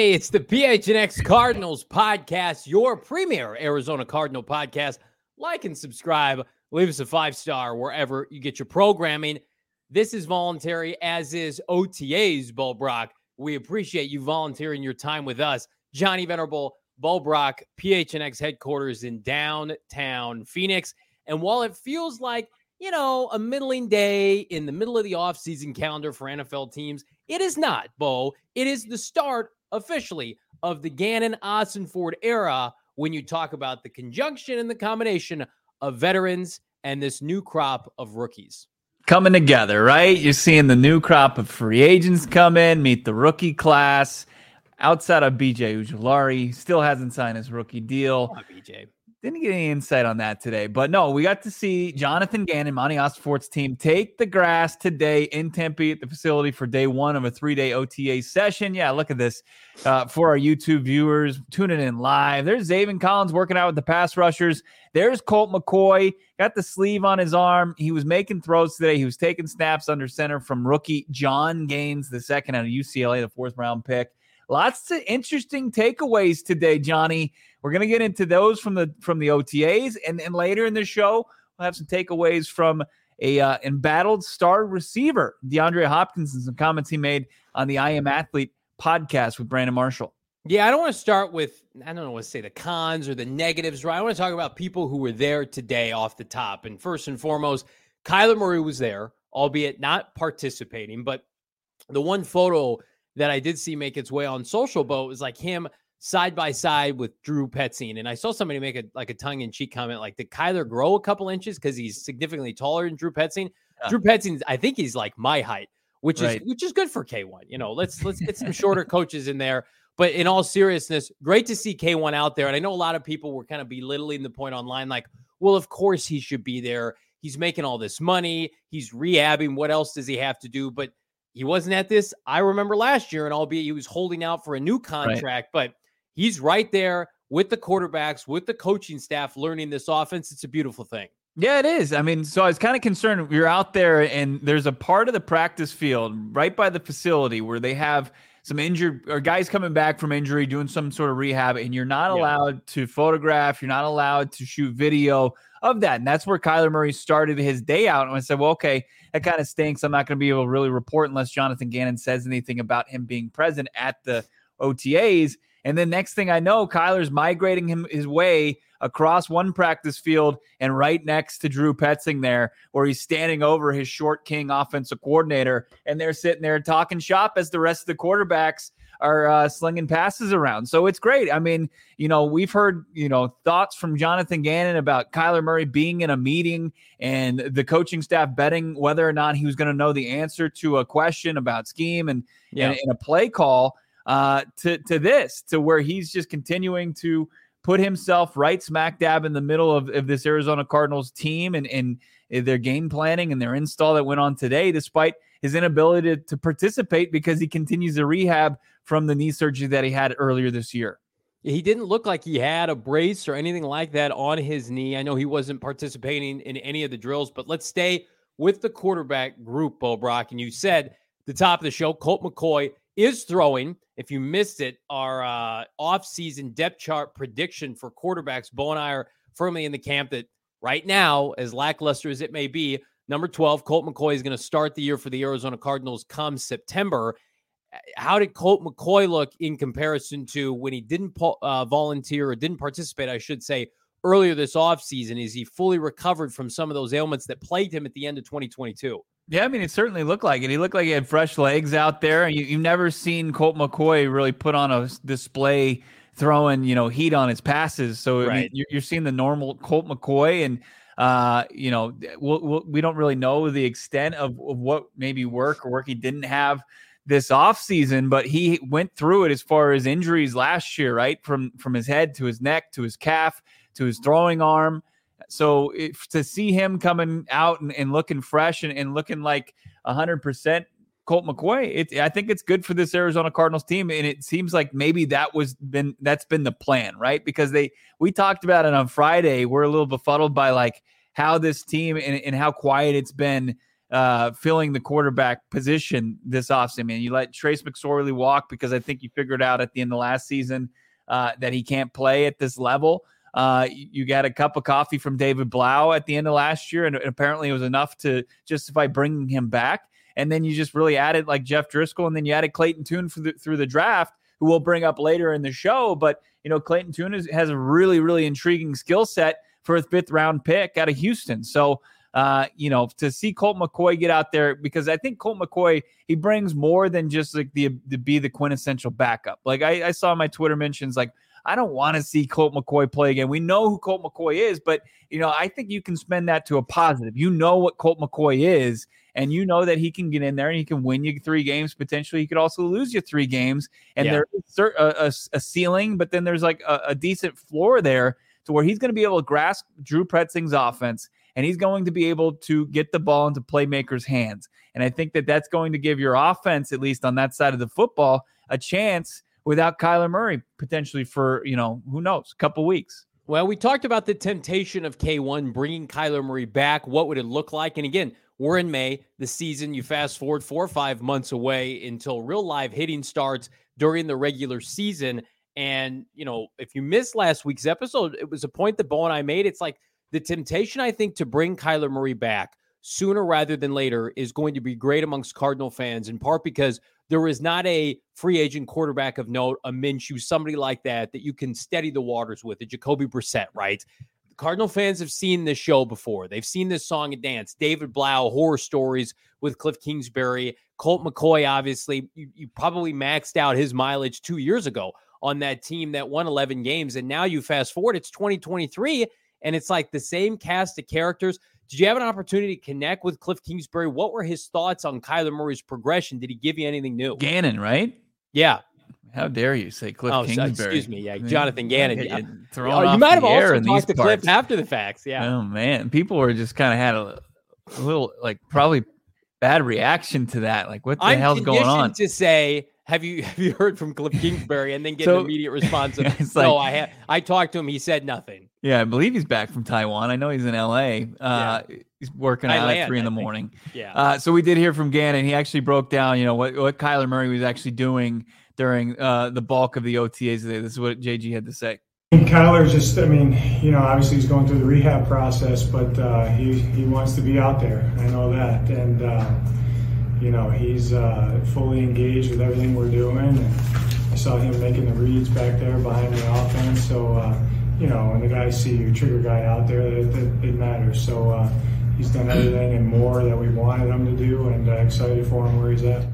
Hey, it's the PHNX Cardinals podcast, your premier Arizona Cardinal podcast. Like and subscribe. Leave us a 5-star wherever you get your programming. This is voluntary, as is OTA's, Bo Brock. We appreciate you volunteering your time with us. Johnny Venerable, Bo Brock, PHNX headquarters in downtown Phoenix. And while it feels like, a middling day in the middle of the offseason calendar for NFL teams, it is not, Bo. It is the start, officially, of the Gannon Ossenford era when you talk about the conjunction and the combination of veterans and this new crop of rookies. Coming together, right? You're seeing the new crop of free agents come in, meet the rookie class. Outside of BJ Ojulari, still hasn't signed his rookie deal. Come on, BJ. Didn't get any insight on that today. But no, we got to see Jonathan Gannon, Monty Ossenford's team, take the grass today in Tempe at the facility for day one of a 3-day OTA session. Yeah, look at this. For our YouTube viewers tuning in live, there's Zaven Collins working out with the pass rushers. There's Colt McCoy, got the sleeve on his arm. He was making throws today. He was taking snaps under center from rookie John Gaines, the second out of UCLA, the 4th-round pick. Lots of interesting takeaways today, Johnny. We're going to get into those from the OTAs, and later in the show, we'll have some takeaways from a embattled star receiver, DeAndre Hopkins, and some comments he made on the I Am Athlete podcast with Brandon Marshall. Yeah, I don't want to start with, I don't know what to say, the cons or the negatives, right? I want to talk about people who were there today off the top. And first and foremost, Kyler Murray was there, albeit not participating, but the one photo that I did see make its way on social, Bo, was like him side by side with Drew Petzing. And I saw somebody make a tongue-in-cheek comment, like, did Kyler grow a couple inches because he's significantly taller than Drew Petzing? Yeah. Drew Petzing, I think he's like my height, which is good for K1. Let's get some shorter coaches in there. But in all seriousness, great to see K1 out there. And I know a lot of people were kind of belittling the point online, like, well, of course he should be there. He's making all this money. He's rehabbing. What else does he have to do? But he wasn't at this. I remember last year, and albeit he was holding out for a new contract, but he's right there with the quarterbacks, with the coaching staff, learning this offense. It's a beautiful thing. Yeah, it is. I mean, so I was kind of concerned. You're out there, and there's a part of the practice field right by the facility where they have some injured or guys coming back from injury, doing some sort of rehab, and you're not allowed to photograph. You're not allowed to shoot video of that. And that's where Kyler Murray started his day out. And I said, well, okay, that kind of stinks. I'm not going to be able to really report unless Jonathan Gannon says anything about him being present at the OTAs. And then next thing I know, Kyler's migrating his way across one practice field and right next to Drew Petzing there, where he's standing over his short king offensive coordinator. And they're sitting there talking shop as the rest of the quarterbacks are slinging passes around. So it's great. I mean, we've heard, thoughts from Jonathan Gannon about Kyler Murray being in a meeting and the coaching staff betting whether or not he was going to know the answer to a question about scheme and a play call to where he's just continuing to put himself right smack dab in the middle of this Arizona Cardinals team and their game planning and their install that went on today, despite his inability to participate because he continues to rehab from the knee surgery that he had earlier this year. He didn't look like he had a brace or anything like that on his knee. I know he wasn't participating in any of the drills, but let's stay with the quarterback group, Bo Brock. And you said at the top of the show, Colt McCoy is throwing. If you missed it, our off-season depth chart prediction for quarterbacks, Bo and I are firmly in the camp that right now, as lackluster as it may be, number 12, Colt McCoy is going to start the year for the Arizona Cardinals come September. How did Colt McCoy look in comparison to when he didn't volunteer or didn't participate, I should say, earlier this offseason? Is he fully recovered from some of those ailments that plagued him at the end of 2022? Yeah, I mean, it certainly looked like it. He looked like he had fresh legs out there. You've never seen Colt McCoy really put on a display throwing, heat on his passes. So I mean, you're seeing the normal Colt McCoy, and we don't really know the extent of what maybe work he didn't have this offseason, but he went through it as far as injuries last year, right? From his head to his neck to his calf to his throwing arm. So to see him coming out and looking fresh and looking like 100% Colt McCoy, I think it's good for this Arizona Cardinals team. And it seems like maybe that's been the plan, right? Because we talked about it on Friday. We're a little befuddled by like how this team and how quiet it's been filling the quarterback position this offseason. I mean, you let Trace McSorley walk because I think you figured out at the end of last season that he can't play at this level. You got a cup of coffee from David Blau at the end of last year, and apparently it was enough to justify bringing him back. And then you just really added like Jeff Driscoll, and then you added Clayton Tune through the draft, who we'll bring up later in the show. But, Clayton Tune has a really, really intriguing skill set for a 5th round pick out of Houston. So, to see Colt McCoy get out there, because I think Colt McCoy, he brings more than just like to be the quintessential backup. Like I saw my Twitter mentions, like, I don't want to see Colt McCoy play again. We know who Colt McCoy is, but, I think you can spend that to a positive. You know what Colt McCoy is, and you know that he can get in there and he can win you 3 games. Potentially, he could also lose you 3 games. And there is a ceiling, but then there's like a decent floor there to where he's going to be able to grasp Drew Pretzing's offense, and he's going to be able to get the ball into playmakers' hands. And I think that that's going to give your offense, at least on that side of the football, a chance without Kyler Murray potentially for, who knows, a couple weeks. Well, we talked about the temptation of K1 bringing Kyler Murray back. What would it look like? And again, we're in May, the season. You fast forward 4 or 5 months away until real live hitting starts during the regular season. And, if you missed last week's episode, it was a point that Bo and I made. It's like the temptation, I think, to bring Kyler Murray back sooner rather than later is going to be great amongst Cardinal fans, in part because there is not a free agent quarterback of note, a Minshew, somebody like that you can steady the waters with, a Jacoby Brissett, right? Cardinal fans have seen this show before. They've seen this song and dance. David Blau, horror stories with Cliff Kingsbury. Colt McCoy, obviously, you probably maxed out his mileage 2 years ago on that team that won 11 games. And now you fast forward, it's 2023, and it's like the same cast of characters. Did you have an opportunity to connect with Cliff Kingsbury? What were his thoughts on Kyler Murray's progression? Did he give you anything new? Gannon, right? Yeah. How dare you say Cliff Kingsbury? Excuse me. Yeah, Jonathan Gannon. You might have also talked to Cliff after the facts. Yeah. Oh, man. People were just kind of had a little, like, probably bad reaction to that. Like, what the hell's going on? To say, have you heard from Cliff Kingsbury? And then get an immediate response of, no, I talked to him. He said nothing. Yeah, I believe he's back from Taiwan. I know he's in LA. He's working out at 3 a.m. Yeah. So we did hear from Gannon. He actually broke down, what Kyler Murray was actually doing during the bulk of the OTAs today. This is what JG had to say. Kyler just, obviously he's going through the rehab process, but he wants to be out there. I know that. And, he's fully engaged with everything we're doing. And I saw him making the reads back there behind the offense. So, when the guys see your trigger guy out there, it matters. So he's done everything and more that we wanted him to do, and excited for him where he's at.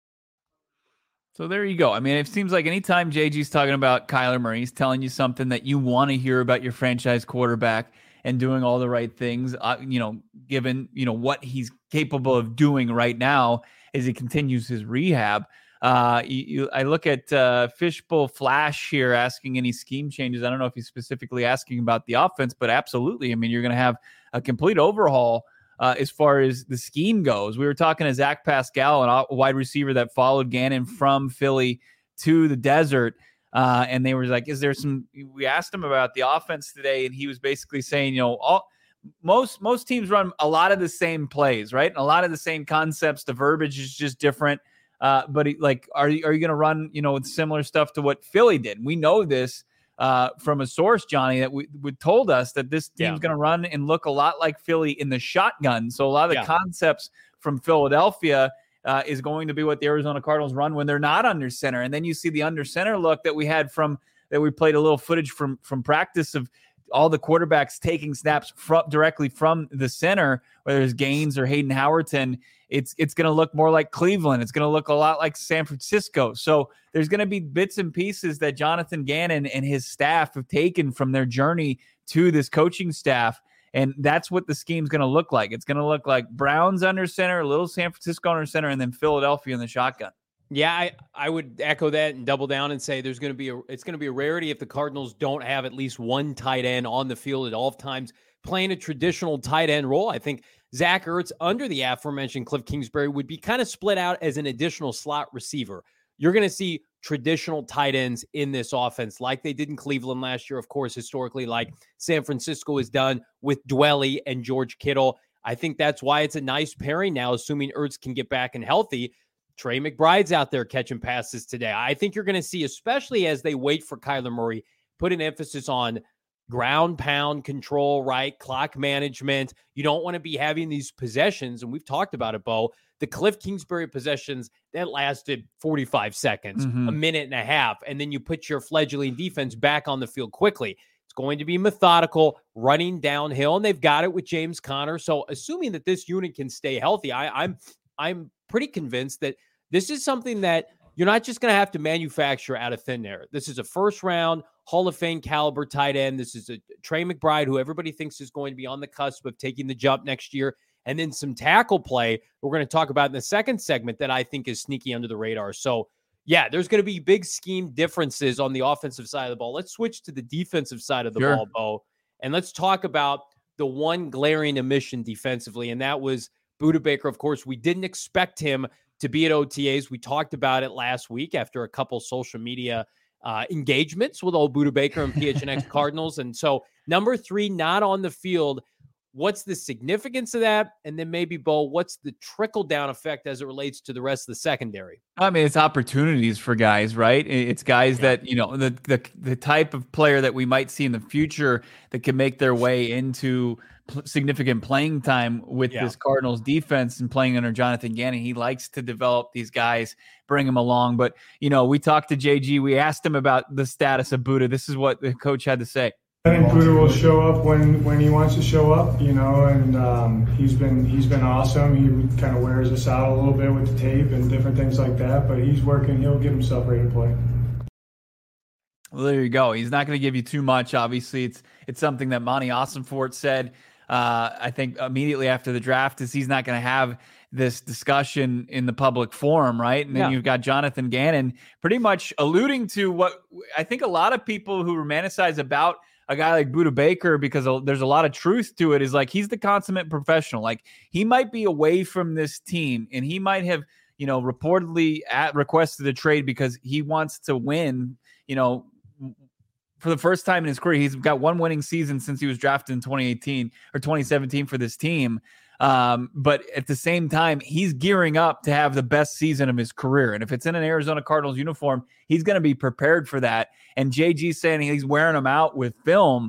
So there you go. I mean, it seems like anytime JG's talking about Kyler Murray, he's telling you something that you want to hear about your franchise quarterback and doing all the right things, given, what he's capable of doing right now as he continues his rehab. I look at Fishbowl Flash here asking any scheme changes. I don't know if he's specifically asking about the offense, but absolutely. I mean, you're going to have a complete overhaul as far as the scheme goes. We were talking to Zach Pascal, a wide receiver that followed Gannon from Philly to the desert. And they were like, we asked him about the offense today, and he was basically saying, most teams run a lot of the same plays, right? And a lot of the same concepts. The verbiage is just different. But are you going to run, with similar stuff to what Philly did? We know this from a source, Johnny, that would told us that this team's going to run and look a lot like Philly in the shotgun. So a lot of the concepts from Philadelphia is going to be what the Arizona Cardinals run when they're not under center. And then you see the under center look that we had that we played a little footage from practice of all the quarterbacks taking snaps directly from the center, whether it's Gaines or Hayden Howerton. It's going to look more like Cleveland. It's going to look a lot like San Francisco. So there's going to be bits and pieces that Jonathan Gannon and his staff have taken from their journey to this coaching staff. And that's what the scheme's going to look like. It's going to look like Browns under center, a little San Francisco under center, and then Philadelphia in the shotgun. Yeah, I would echo that and double down and say it's going to be a rarity if the Cardinals don't have at least one tight end on the field at all times playing a traditional tight end role. I think Zach Ertz, under the aforementioned Cliff Kingsbury, would be kind of split out as an additional slot receiver. You're going to see traditional tight ends in this offense like they did in Cleveland last year, of course, historically, like San Francisco has done with Dwelly and George Kittle. I think that's why it's a nice pairing now, assuming Ertz can get back and healthy. Trey McBride's out there catching passes today. I think you're going to see, especially as they wait for Kyler Murray, put an emphasis on ground pound control, right? Clock management. You don't want to be having these possessions. And we've talked about it, Bo. The Cliff Kingsbury possessions that lasted 45 seconds, a minute and a half. And then you put your fledgling defense back on the field quickly. It's going to be methodical, running downhill. And they've got it with James Conner. So assuming that this unit can stay healthy, I'm pretty convinced that this is something that you're not just going to have to manufacture out of thin air. This is a first-round Hall of Fame caliber tight end. This is a Trey McBride, who everybody thinks is going to be on the cusp of taking the jump next year. And then some tackle play we're going to talk about in the second segment that I think is sneaky under the radar. So, yeah, there's going to be big scheme differences on the offensive side of the ball. Let's switch to the defensive side of the ball, Bo, and let's talk about the one glaring omission defensively, and that was Budda Baker. Of course, we didn't expect him to be at OTAs. We talked about it last week after a couple social media engagements with old Budda Baker and PHNX Cardinals. And so number 3, not on the field. What's the significance of that? And then maybe, Bo, what's the trickle-down effect as it relates to the rest of the secondary? I mean, it's opportunities for guys, right? It's guys that, you know, the type of player that we might see in the future that can make their way into significant playing time with this Cardinals defense and playing under Jonathan Gannon. He likes to develop these guys, bring them along. But, you know, we talked to JG. We asked him about the status of Budda. This is what the coach had to say. I think Budda will show up when he wants to show up, you know, and he's been awesome. He kind of wears us out a little bit with the tape and different things like that, but he's working. He'll get himself ready to play. Well, there you go. He's not going to give you too much. Obviously, it's something that Monty Ossenfort said, I think immediately after the draft, is he's not going to have this discussion in the public forum, right? And then you've got Jonathan Gannon pretty much alluding to what I think a lot of people who romanticize about a guy like Budda Baker, because there's a lot of truth to it, is like he's the consummate professional. Like he might be away from this team and he might have, you know, reportedly requested a trade because he wants to win, you know, for the first time in his career. He's got one winning season since he was drafted in 2018 or 2017 for this team. But at the same time, he's gearing up to have the best season of his career. And if it's in an Arizona Cardinals uniform, he's going to be prepared for that. And JG saying he's wearing them out with film.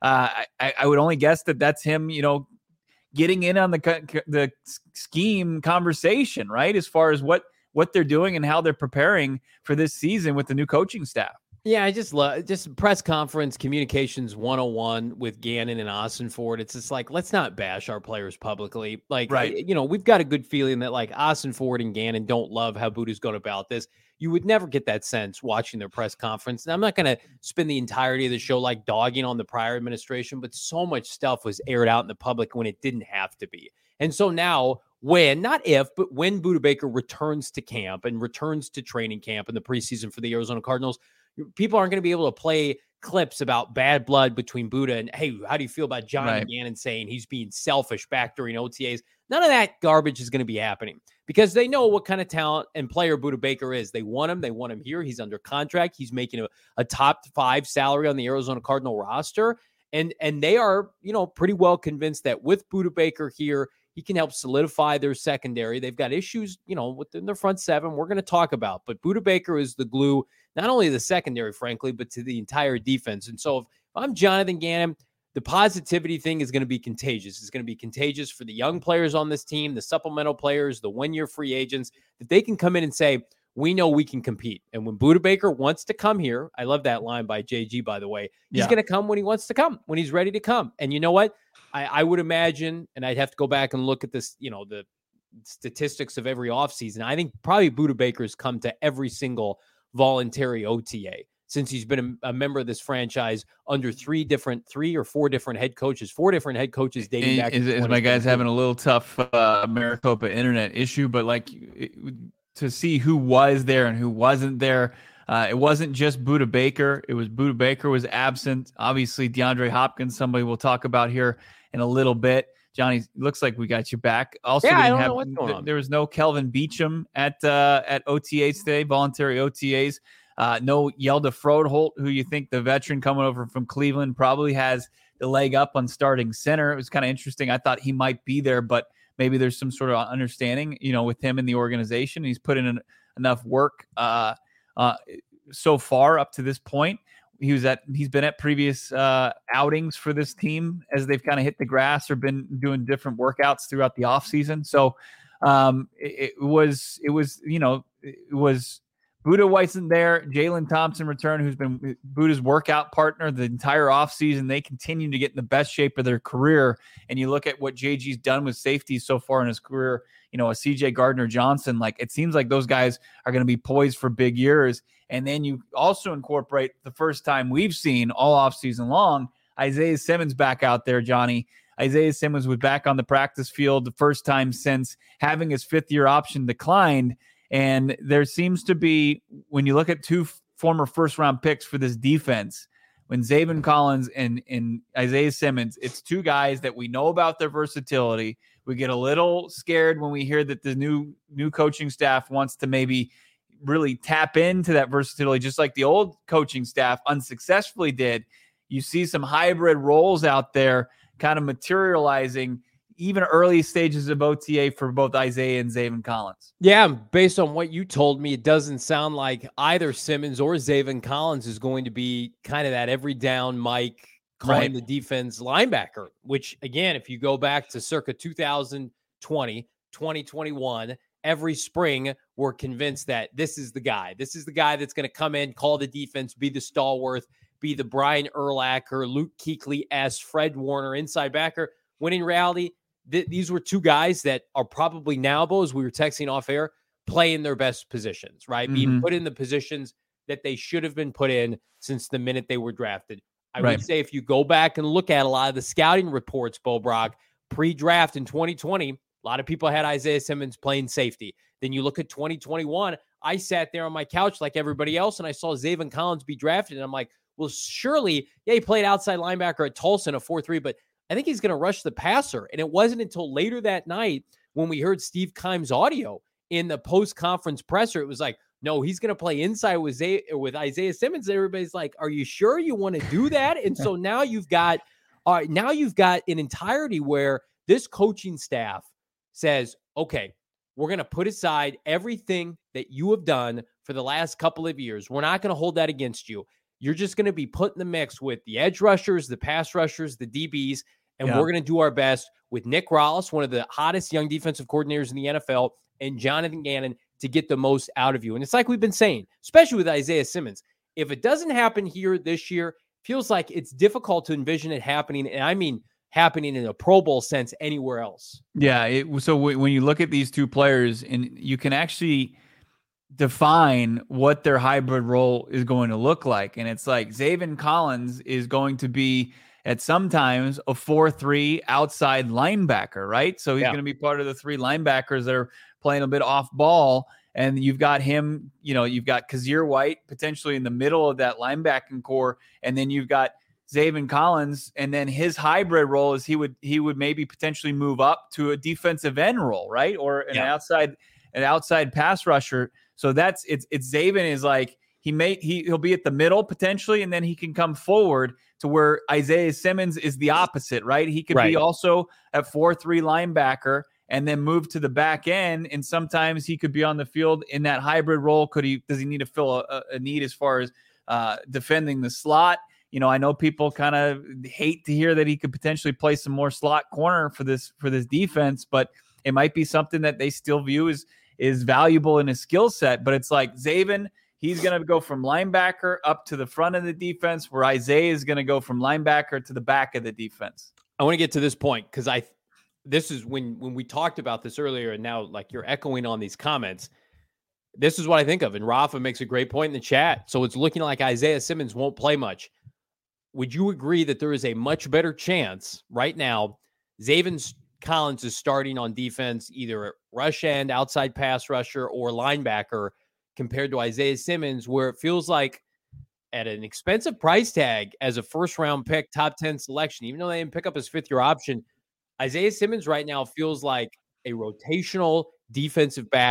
I would only guess that that's him, you know, getting in on the scheme conversation, right? As far as what they're doing and how they're preparing for this season with the new coaching staff. Yeah, I just love press conference communications 101 with Gannon and Ossenfort. It's just like, let's not bash our players publicly. Like, right. You know, we've got a good feeling that like Ossenfort and Gannon don't love how Budda's going about this. You would never get that sense watching their press conference. And I'm not going to spend the entirety of the show like dogging on the prior administration, but so much stuff was aired out in the public when it didn't have to be. And so now when, not if, but when Budda Baker returns to camp and returns to training camp in the preseason for the Arizona Cardinals, people aren't going to be able to play clips about bad blood between Budda and, hey, how do you feel about Jonathan Gannon saying he's being selfish back during OTAs? None of that garbage is going to be happening because they know what kind of talent and player Budda Baker is. They want him. They want him here. He's under contract. He's making a top 5 salary on the Arizona Cardinal roster. And they are, you know, pretty well convinced that with Budda Baker here, he can help solidify their secondary. They've got issues, you know, within their front 7 we're going to talk about. But Budda Baker is the glue, not only the secondary, frankly, but to the entire defense. And so if I'm Jonathan Gannon, the positivity thing is going to be contagious. It's going to be contagious for the young players on this team, the supplemental players, the one-year free agents, that they can come in and say, we know we can compete. And when Budda Baker wants to come here, I love that line by JG, by the way, he's going to come when he wants to come, when he's ready to come. And you know what? I would imagine, and I'd have to go back and look at this, you know, the statistics of every offseason. I think probably Budda Baker's come to every single voluntary OTA since he's been a member of this franchise under 4 different head coaches, 4 different head coaches dating back. Is my guy's having a little tough Maricopa internet issue, but like to see who was there and who wasn't there. It wasn't just Budda Baker. It was Budda Baker was absent. Obviously, DeAndre Hopkins, somebody we'll talk about here in a little bit. Johnny, looks like we got you back. Also, I don't know what's going on. There was no Kelvin Beachum at OTAs today, voluntary OTAs. No Yelda Froholt, who you think the veteran coming over from Cleveland probably has the leg up on starting center. It was kind of interesting. I thought he might be there, but maybe there's some sort of understanding, with him in the organization. He's put in enough work so far up to this point. He's been at previous outings for this team as they've kind of hit the grass or been doing different workouts throughout the offseason. So it was Buda wasn't there. Jalen Thompson returned, who's been Buda's workout partner the entire offseason. They continue to get in the best shape of their career. And you look at what JG's done with safeties so far in his career, a CJ Gardner-Johnson, like it seems like those guys are going to be poised for big years. And then you also incorporate the first time we've seen all offseason long, Isaiah Simmons back out there, Johnny. Isaiah Simmons was back on the practice field the first time since having his fifth-year option declined. And there seems to be, when you look at two former first-round picks for this defense, when Zaven Collins and Isaiah Simmons, it's two guys that we know about their versatility. We get a little scared when we hear that the new coaching staff wants to maybe really tap into that versatility, just like the old coaching staff unsuccessfully did. You see some hybrid roles out there kind of materializing even early stages of OTA for both Isaiah and Zaven Collins. Yeah, based on what you told me, it doesn't sound like either Simmons or Zaven Collins is going to be kind of that every down Mike calling the defense linebacker, which, again, if you go back to circa 2020, 2021, every spring we're convinced that this is the guy. This is the guy that's going to come in, call the defense, be the stalwart, be the Brian Urlacher, Luke Kuechly-esque, Fred Warner inside backer. When in reality, these were two guys that are probably now, Bo, as we were texting off air, playing their best positions, right? Being put in the positions that they should have been put in since the minute they were drafted. I would say if you go back and look at a lot of the scouting reports, Bo Brock, pre-draft in 2020, a lot of people had Isaiah Simmons playing safety. Then you look at 2021, I sat there on my couch like everybody else, and I saw Zaven Collins be drafted, and I'm like, well, surely, he played outside linebacker at Tulsa in a 4-3, but I think he's going to rush the passer. And it wasn't until later that night when we heard Steve Keim's audio in the post-conference presser, it was like, no, he's going to play inside with Isaiah Simmons. Everybody's like, are you sure you want to do that? And so now you've got an entirety where this coaching staff says, okay, we're going to put aside everything that you have done for the last couple of years. We're not going to hold that against you. You're just going to be put in the mix with the edge rushers, the pass rushers, the DBs, and we're going to do our best with Nick Rallis, one of the hottest young defensive coordinators in the NFL, and Jonathan Gannon to get the most out of you. And it's like we've been saying, especially with Isaiah Simmons, if it doesn't happen here this year, feels like it's difficult to envision it happening, and I mean happening in a Pro Bowl sense anywhere else. Yeah, so when you look at these two players, and you can actually define what their hybrid role is going to look like. And it's like Zaven Collins is going to be at sometimes a 4-3 outside linebacker, right? So he's going to be part of the three linebackers that are playing a bit off ball. And you've got him, you've got Kazir White potentially in the middle of that linebacking core. And then you've got Zaven Collins. And then his hybrid role is he would maybe potentially move up to a defensive end role, right? Or an outside pass rusher. So it's Zaven is like, he'll be at the middle potentially, and then he can come forward to where Isaiah Simmons is the opposite, right? He could be also at 4-3 linebacker and then move to the back end. And sometimes he could be on the field in that hybrid role. Does he need to fill a need as far as defending the slot? I know people kind of hate to hear that he could potentially play some more slot corner for this defense, but it might be something that they still view is valuable in his skill set. But it's like Zaven, he's going to go from linebacker up to the front of the defense, where Isaiah is going to go from linebacker to the back of the defense. I want to get to this point because this is when we talked about this earlier, and now like you're echoing on these comments. This is what I think of. And Rafa makes a great point in the chat. So it's looking like Isaiah Simmons won't play much. Would you agree that there is a much better chance right now Zaven Collins is starting on defense, either at rush end, outside pass rusher, or linebacker, compared to Isaiah Simmons, where it feels like at an expensive price tag as a first-round pick, top 10 selection, even though they didn't pick up his fifth-year option, Isaiah Simmons right now feels like a rotational defensive back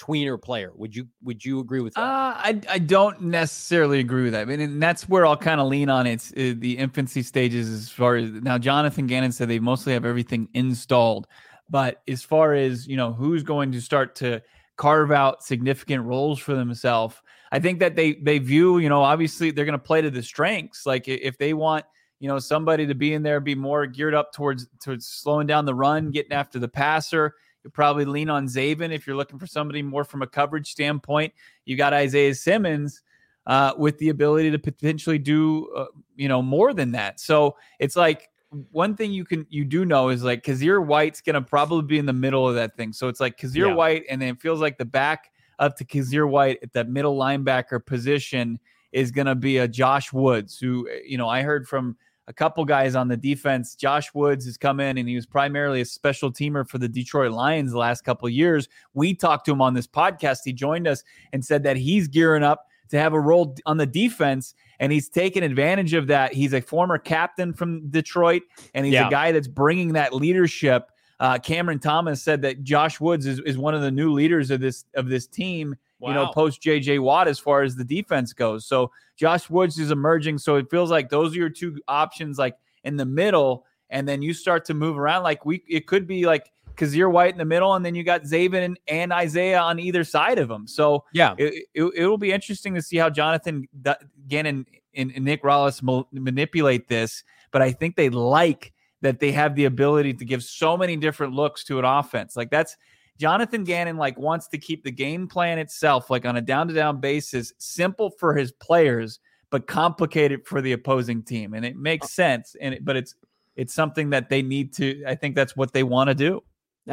tweener player. Would you agree with that? I don't necessarily agree with that. I mean, and that's where I'll kind of lean on it's the infancy stages as far as now. Jonathan Gannon said they mostly have everything installed, but as far as who's going to start to carve out significant roles for themselves, I think that they view obviously they're going to play to the strengths. Like if they want somebody to be in there, be more geared up towards slowing down the run, getting after the passer. You probably lean on Zaven if you're looking for somebody more from a coverage standpoint. You got Isaiah Simmons with the ability to potentially do more than that. So it's like one thing you do know is like Kazir White's going to probably be in the middle of that thing. So it's like Kazir White, and then it feels like the back up to Kazir White at that middle linebacker position is going to be a Josh Woods, who I heard from a couple guys on the defense. Josh Woods has come in and he was primarily a special teamer for the Detroit Lions the last couple of years. We talked to him on this podcast. He joined us and said that he's gearing up to have a role on the defense, and he's taken advantage of that. He's a former captain from Detroit, and he's a guy that's bringing that leadership. Cameron Thomas said that Josh Woods is one of the new leaders of this team. Wow. Post JJ Watt as far as the defense goes. So Josh Woods is emerging. So it feels like those are your two options, like in the middle. And then you start to move around. Like it could be like Kazir White in the middle, and then you got Zaven and Isaiah on either side of them. So it'll be interesting to see how Jonathan Gannon and Nick Rallis manipulate this. But I think they like that they have the ability to give so many different looks to an offense. Like that's Jonathan Gannon wants to keep the game plan itself, like on a down-to-down basis, simple for his players, but complicated for the opposing team. And it makes sense. But it's something that they need to, I think that's what they want to do.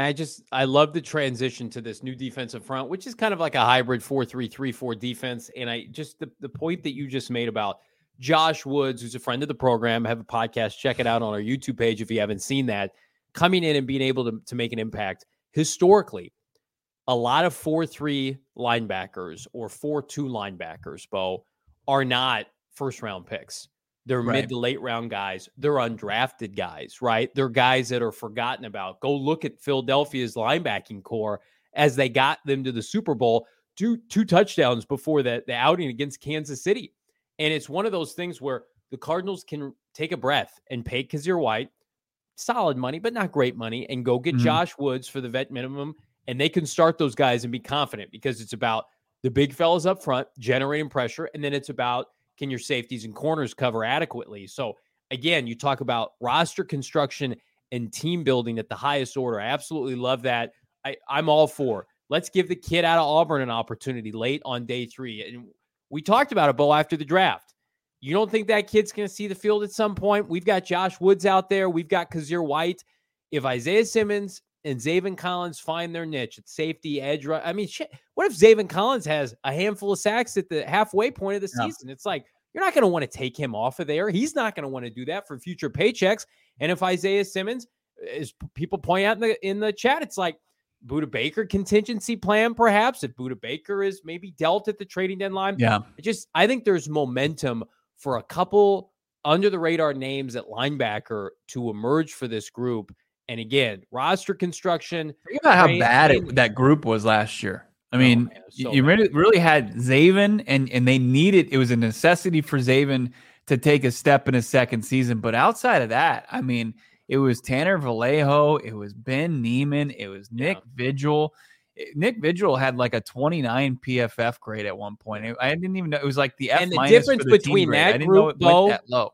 I love the transition to this new defensive front, which is kind of like a hybrid 4-3-3-4 defense. And the point that you just made about Josh Woods, who's a friend of the program, have a podcast, check it out on our YouTube page if you haven't seen that, coming in and being able to make an impact. Historically, a lot of 4-3 linebackers or 4-2 linebackers, Bo, are not first-round picks. They're mid to late round guys. They're undrafted guys, right? They're guys that are forgotten about. Go look at Philadelphia's linebacking core as they got them to the Super Bowl, two touchdowns before the outing against Kansas City. And it's one of those things where the Cardinals can take a breath and pay Kazir White solid money, but not great money, and go get Josh Woods for the vet minimum, and they can start those guys and be confident, because it's about the big fellas up front generating pressure, and then it's about can your safeties and corners cover adequately. So again, you talk about roster construction and team building at the highest order. I absolutely love that. I'm all for. Let's give the kid out of Auburn an opportunity late on day 3. And we talked about it, Bo, after the draft. You don't think that kid's going to see the field at some point? We've got Josh Woods out there. We've got Kazir White. If Isaiah Simmons and Zaven Collins find their niche at safety, edge, I mean, shit, what if Zaven Collins has a handful of sacks at the halfway point of the season? It's like, you're not going to want to take him off of there. He's not going to want to do that for future paychecks. And if Isaiah Simmons, as people point out in the chat, it's like Budda Baker contingency plan, perhaps, if Budda Baker is maybe dealt at the trading deadline. Yeah. I think there's momentum for a couple under the radar names at linebacker to emerge for this group. And again, roster construction. Think about how bad that group was last year. I mean, you really had Zaven, and they needed, it was a necessity for Zaven to take a step in his second season. But outside of that, I mean, it was Tanner Vallejo, it was Ben Neiman, it was Nick Vigil. Nick Vigil had like a 29 PFF grade at one point. I didn't even know it was like the F-. And the difference between that group, though, that low.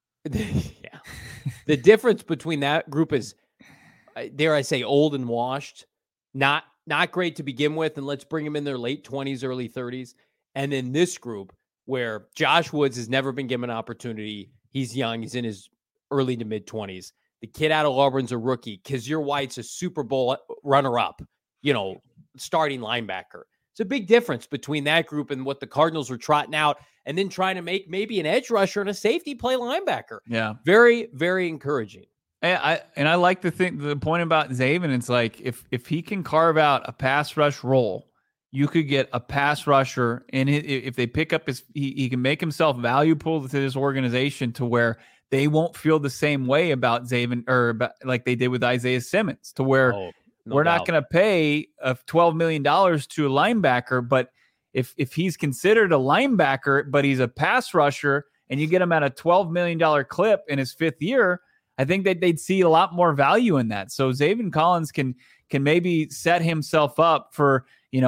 The difference between that group is, dare I say, old and washed, not great to begin with, and let's bring them in their late 20s, early 30s. And then this group where Josh Woods has never been given an opportunity. He's young. He's in his early to mid 20s. The kid out of Auburn's a rookie. Kazir White's a Super Bowl runner-up, starting linebacker. It's a big difference between that group and what the Cardinals were trotting out, and then trying to make maybe an edge rusher and a safety play linebacker. Yeah. Very, very encouraging. And I like the point about Zaven. It's like if he can carve out a pass rush role, you could get a pass rusher, and if they pick up he can make himself valuable to this organization to where they won't feel the same way about Zaven or about, like they did with Isaiah Simmons, to where we're not going to pay $12 million to a linebacker, but if he's considered a linebacker, but he's a pass rusher, and you get him at a $12 million clip in his 5th year, I think that they'd see a lot more value in that. So Zaven Collins can maybe set himself up for,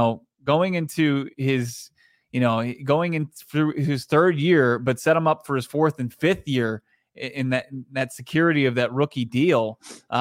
going into his, going in through his 3rd year, but set him up for his 4th and 5th year in that security of that rookie deal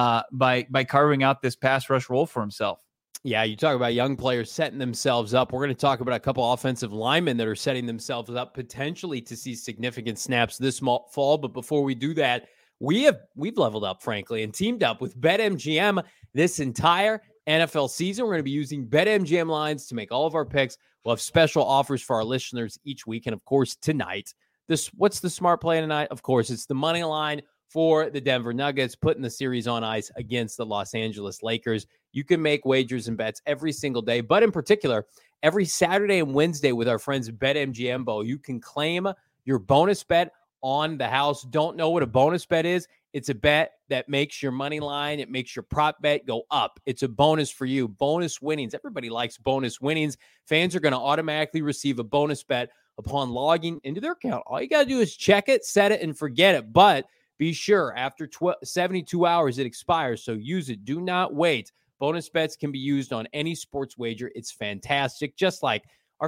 by carving out this pass rush role for himself. Yeah, you talk about young players setting themselves up. We're going to talk about a couple offensive linemen that are setting themselves up potentially to see significant snaps this fall. But before we do that, we've leveled up, frankly, and teamed up with BetMGM this entire NFL season. We're going to be using BetMGM lines to make all of our picks. We'll have special offers for our listeners each week. And of course, tonight, what's the smart play tonight? Of course, it's the money line for the Denver Nuggets, putting the series on ice against the Los Angeles Lakers. You can make wagers and bets every single day, but in particular, every Saturday and Wednesday with our friends at BetMGM Bo, you can claim your bonus bet on the house. Don't know what a bonus bet is? It's a bet that makes your money line, it makes your prop bet go up. It's a bonus for you. Bonus winnings. Everybody likes bonus winnings. Fans are going to automatically receive a bonus bet upon logging into their account. All you got to do is check it, set it, and forget it. But be sure, after 72 hours, it expires, so use it. Do not wait. Bonus bets can be used on any sports wager. It's fantastic, just like our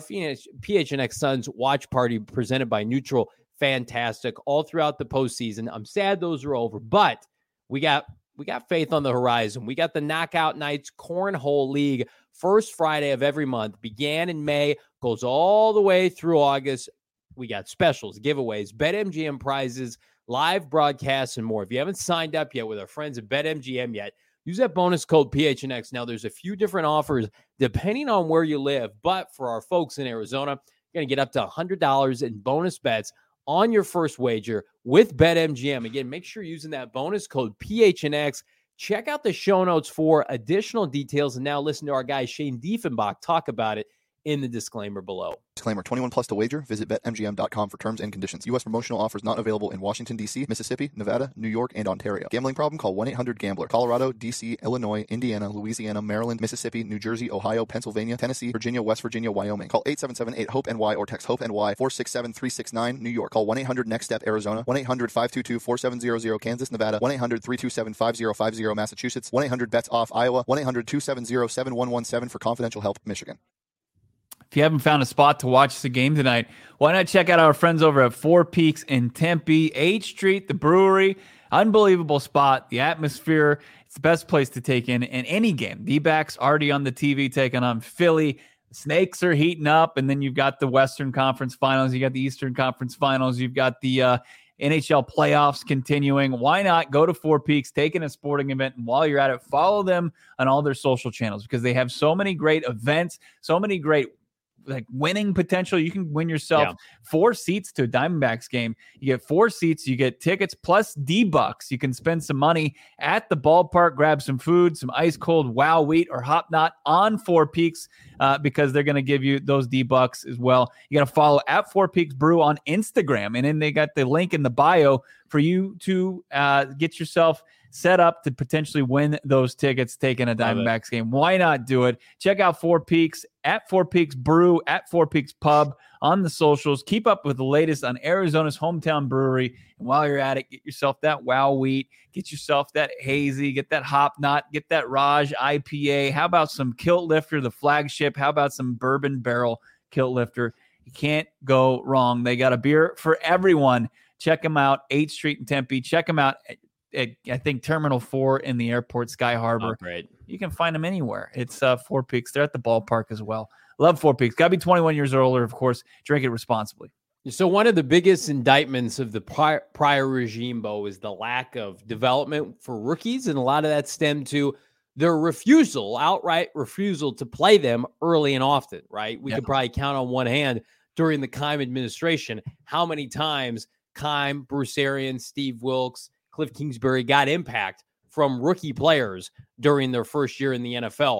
PHNX Suns watch party presented by Neutral. Fantastic all throughout the postseason. I'm sad those are over, but we got faith on the horizon. We got the Knockout Nights Cornhole League, first Friday of every month. Began in May, goes all the way through August. We got specials, giveaways, BetMGM prizes, live broadcasts, and more. If you haven't signed up yet with our friends at BetMGM yet, use that bonus code PHNX. Now, there's a few different offers depending on where you live, but for our folks in Arizona, you're going to get up to $100 in bonus bets on your first wager with BetMGM. Again, make sure you're using that bonus code PHNX. Check out the show notes for additional details. And now listen to our guy Shane Diefenbach talk about it in the disclaimer below. Disclaimer, 21 plus to wager. Visit BetMGM.com for terms and conditions. U.S. promotional offers not available in Washington, D.C., Mississippi, Nevada, New York, and Ontario. Gambling problem? Call 1-800-GAMBLER. Colorado, D.C., Illinois, Indiana, Louisiana, Maryland, Mississippi, New Jersey, Ohio, Pennsylvania, Tennessee, Virginia, West Virginia, Wyoming. Call 877-8-HOPE-NY or text HOPE-NY 467-369, New York. Call 1-800-NEXT-STEP, Arizona. 1-800-522-4700, Kansas, Nevada. 1-800-327-5050, Massachusetts. 1-800-BETS-OFF, Iowa. 1-800-270-7117 for confidential help, Michigan. If you haven't found a spot to watch the game tonight, why not check out our friends over at Four Peaks in Tempe, 8th Street, the brewery. Unbelievable spot. The atmosphere, it's the best place to take in any game. D-backs already on the TV taking on Philly. The Snakes are heating up, and then you've got the Western Conference Finals. You got the Eastern Conference Finals. You've got the NHL playoffs continuing. Why not go to Four Peaks, take in a sporting event, and while you're at it, follow them on all their social channels because they have so many great events, so many great winning potential. You can win yourself 4 seats to a Diamondbacks game. You get 4 seats, you get tickets plus D-Bucks. You can spend some money at the ballpark, grab some food, some ice cold Wow Wheat or Hop Knot on Four Peaks because they're going to give you those D-Bucks as well. You got to follow at Four Peaks Brew on Instagram, and then they got the link in the bio for you to get yourself set up to potentially win those tickets taking a Diamondbacks game. Why not do it? Check out Four Peaks at Four Peaks Brew at Four Peaks Pub on the socials. Keep up with the latest on Arizona's hometown brewery. And while you're at it, get yourself that Wow Wheat, get yourself that Hazy, get that Hop Knot, get that Raj IPA. How about some Kilt Lifter, the flagship? How about some Bourbon Barrel Kilt Lifter? You can't go wrong. They got a beer for everyone. Check them out, 8th Street in Tempe. Check them out at I think Terminal 4 in the airport, Sky Harbor. Oh, great. You can find them anywhere. It's Four Peaks. They're at the ballpark as well. Love Four Peaks. Got to be 21 years or older, of course. Drink it responsibly. So one of the biggest indictments of the prior regime, Bo, is the lack of development for rookies. And a lot of that stemmed to their outright refusal to play them early and often, right? We could probably count on one hand during the Keim administration how many times Keim, Bruce Arians, Steve Wilks, Cliff Kingsbury got impact from rookie players during their first year in the NFL.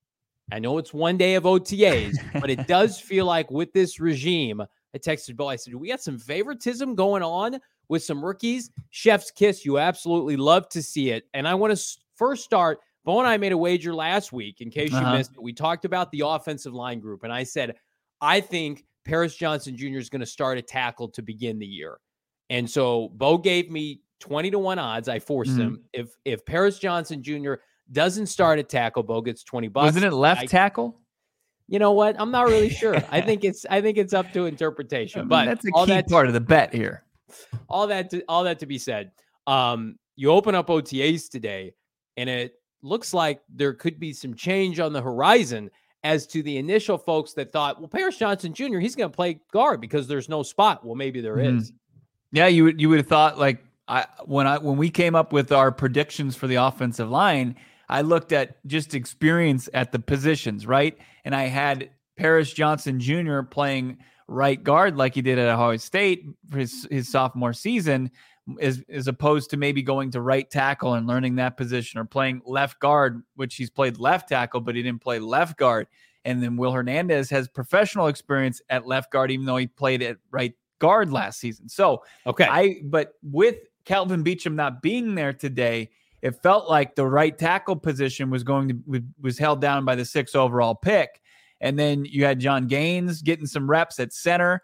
I know it's one day of OTAs, but it does feel like with this regime, I texted Bo, I said, we got some favoritism going on with some rookies. Chef's kiss. You absolutely love to see it. And I want to first start Bo and I made a wager last week, in case you Uh-huh. missed it. We talked about the offensive line group, and I said, I think Paris Johnson Jr. is going to start a tackle to begin the year. And so Bo gave me 20-1 odds. I forced him. If Paris Johnson Jr. doesn't start a tackle, Bo gets $20. Wasn't it left tackle? You know what? I'm not really sure. I think it's up to interpretation. But that's a key part of the bet here. All that to be said. You open up OTAs today, and it looks like there could be some change on the horizon as to the initial folks that thought, well, Paris Johnson Jr., he's going to play guard because there's no spot. Well, maybe there is. Yeah, you would have thought, like, when we came up with our predictions for the offensive line, I looked at just experience at the positions, right? And I had Paris Johnson Jr. playing right guard like he did at Ohio State for his sophomore season, as opposed to maybe going to right tackle and learning that position, or playing left guard, which he's played left tackle, but he didn't play left guard. And then Will Hernandez has professional experience at left guard, even though he played at right guard last season. So, but with Kelvin Beachum not being there today, it felt like the right tackle position was held down by the 6th overall pick. And then you had John Gaines getting some reps at center.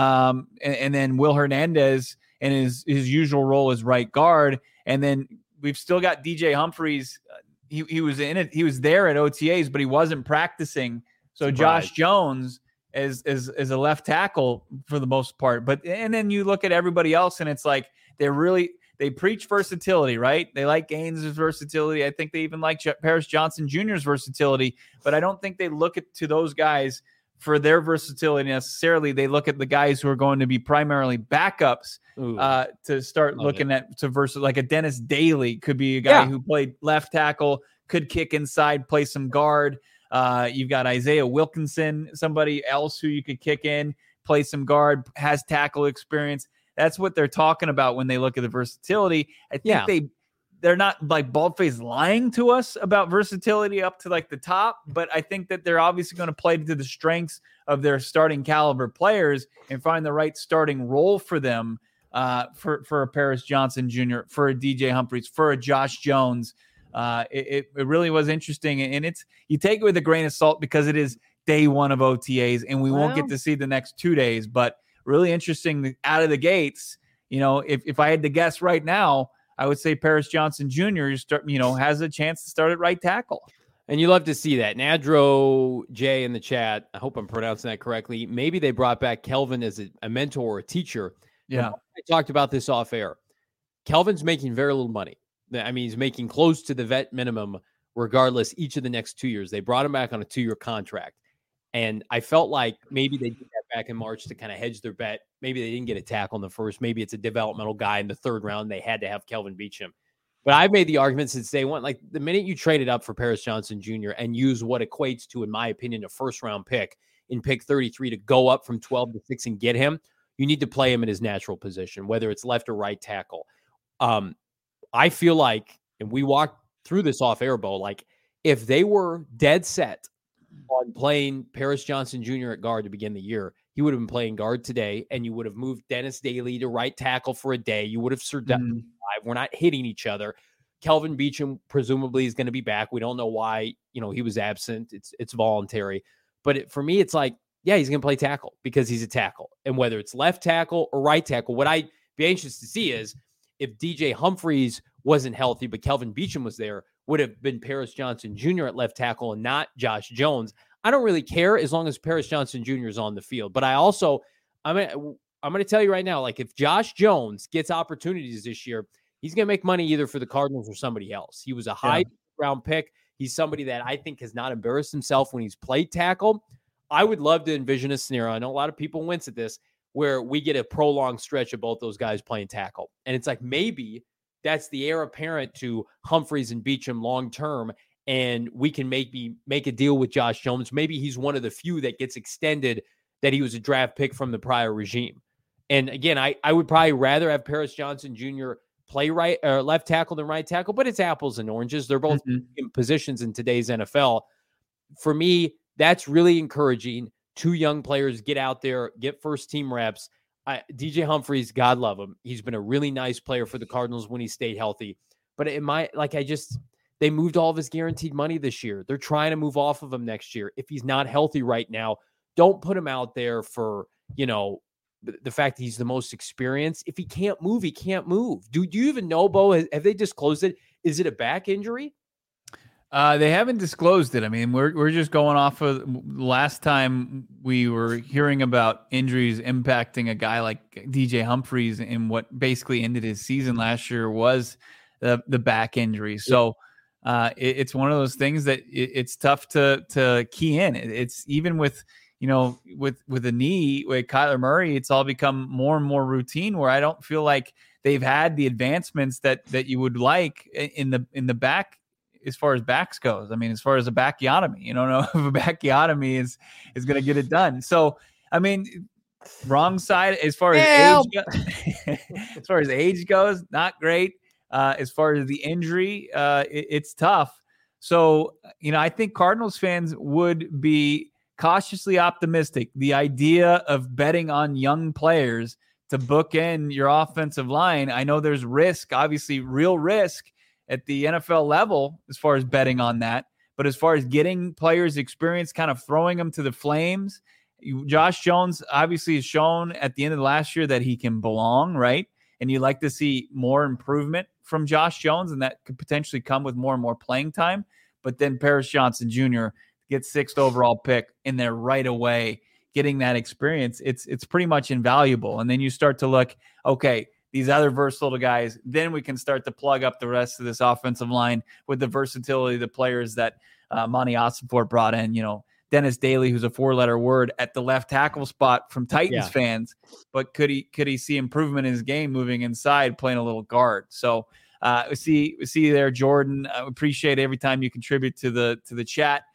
And then Will Hernandez in his usual role as right guard. And then we've still got DJ Humphries. He was in it. He was there at OTAs, but he wasn't practicing. So Josh Jones is a left tackle for the most part. And then you look at everybody else, and it's like they preach versatility, right? They like Gaines' versatility. I think they even like Paris Johnson Jr.'s versatility, but I don't think they look to those guys for their versatility necessarily. They look at the guys who are going to be primarily backups to start looking at versus, like a Dennis Daly could be a guy who played left tackle, could kick inside, play some guard. You've got Isaiah Wilkinson, somebody else who you could kick in, play some guard, has tackle experience. That's what they're talking about when they look at the versatility. I think they're not like bald-faced lying to us about versatility up to like the top, but I think that they're obviously going to play to the strengths of their starting caliber players and find the right starting role for them, for a Paris Johnson Jr., for a DJ Humphries, for a Josh Jones. It really was interesting, and you take it with a grain of salt because it is day one of OTAs, and we won't get to see the next 2 days, but really interesting out of the gates. You know, if I had to guess right now, I would say Paris Johnson Jr. Has a chance to start at right tackle. And you love to see that. Nadro J in the chat, I hope I'm pronouncing that correctly. Maybe they brought back Kelvin as a mentor or a teacher. Yeah. I talked about this off air. Kelvin's making very little money. I mean, he's making close to the vet minimum regardless each of the next 2 years. They brought him back on a 2-year contract. And I felt like maybe they did that back in March to kind of hedge their bet. Maybe they didn't get a tackle in the first. Maybe it's a developmental guy in the third round. They had to have Kelvin Beachum. But I've made the argument since day one, like the minute you traded up for Paris Johnson Jr. and use what equates to, in my opinion, a first-round pick in pick 33 to go up from 12 to 6 and get him, you need to play him in his natural position, whether it's left or right tackle. I feel like, and we walked through this off air, Bo, like if they were dead set on playing Paris Johnson Jr. at guard to begin the year, he would have been playing guard today, and you would have moved Dennis Daly to right tackle for a day. You would have survived. We're not hitting each other. Kelvin Beachum presumably is going to be back. We don't know why, he was absent. It's voluntary. But for me, it's like, yeah, he's going to play tackle because he's a tackle. And whether it's left tackle or right tackle, what I'd be anxious to see is if DJ Humphries wasn't healthy, but Kelvin Beachum was there, would have been Paris Johnson Jr. at left tackle and not Josh Jones. I don't really care as long as Paris Johnson Jr. is on the field. But I'm going to tell you right now, like if Josh Jones gets opportunities this year, he's going to make money either for the Cardinals or somebody else. He was a high round pick. He's somebody that I think has not embarrassed himself when he's played tackle. I would love to envision a scenario. I know a lot of people wince at this, where we get a prolonged stretch of both those guys playing tackle. And it's like, maybe that's the heir apparent to Humphries and Beachum long-term. And we can make a deal with Josh Jones. Maybe he's one of the few that gets extended, that he was a draft pick from the prior regime. And again, I would probably rather have Paris Johnson Jr. play right or left tackle than right tackle, but it's apples and oranges. They're both in positions in today's NFL. For me, that's really encouraging. 2 young players get out there, get first team reps. DJ Humphries, God love him. He's been a really nice player for the Cardinals when he stayed healthy. But They moved all of his guaranteed money this year. They're trying to move off of him next year. If he's not healthy right now, don't put him out there for, the fact that he's the most experienced. If he can't move, he can't move. Do you even know, Bo? Have they disclosed it? Is it a back injury? They haven't disclosed it. I mean, we're just going off of last time we were hearing about injuries impacting a guy like DJ Humphries, and what basically ended his season last year was the back injury. So it's one of those things that it's tough to key in. It's even with a knee with Kyler Murray, it's all become more and more routine, where I don't feel like they've had the advancements that you would like in the back. As far as backs goes, I mean, as far as a backiotomy, you don't know if a backiotomy is going to get it done. So, I mean, wrong side as far as age goes, not great. As far as the injury, it's tough. So, I think Cardinals fans would be cautiously optimistic. The idea of betting on young players to bookend your offensive line, I know there's risk, obviously real risk at the NFL level as far as betting on that. But as far as getting players experience, kind of throwing them to the flames, Josh Jones obviously has shown at the end of last year that he can belong, right? And you like to see more improvement from Josh Jones, and that could potentially come with more and more playing time. But then Paris Johnson Jr. gets 6th overall pick in there right away, getting that experience. It's pretty much invaluable. And then you start to look, okay, these other versatile guys, then we can start to plug up the rest of this offensive line with the versatility of the players that Monty Ossenfort brought in. Dennis Daly, who's a 4-letter word at the left tackle spot from Titans fans, but could he see improvement in his game moving inside, playing a little guard? So we see you there, Jordan. I appreciate every time you contribute to the chat.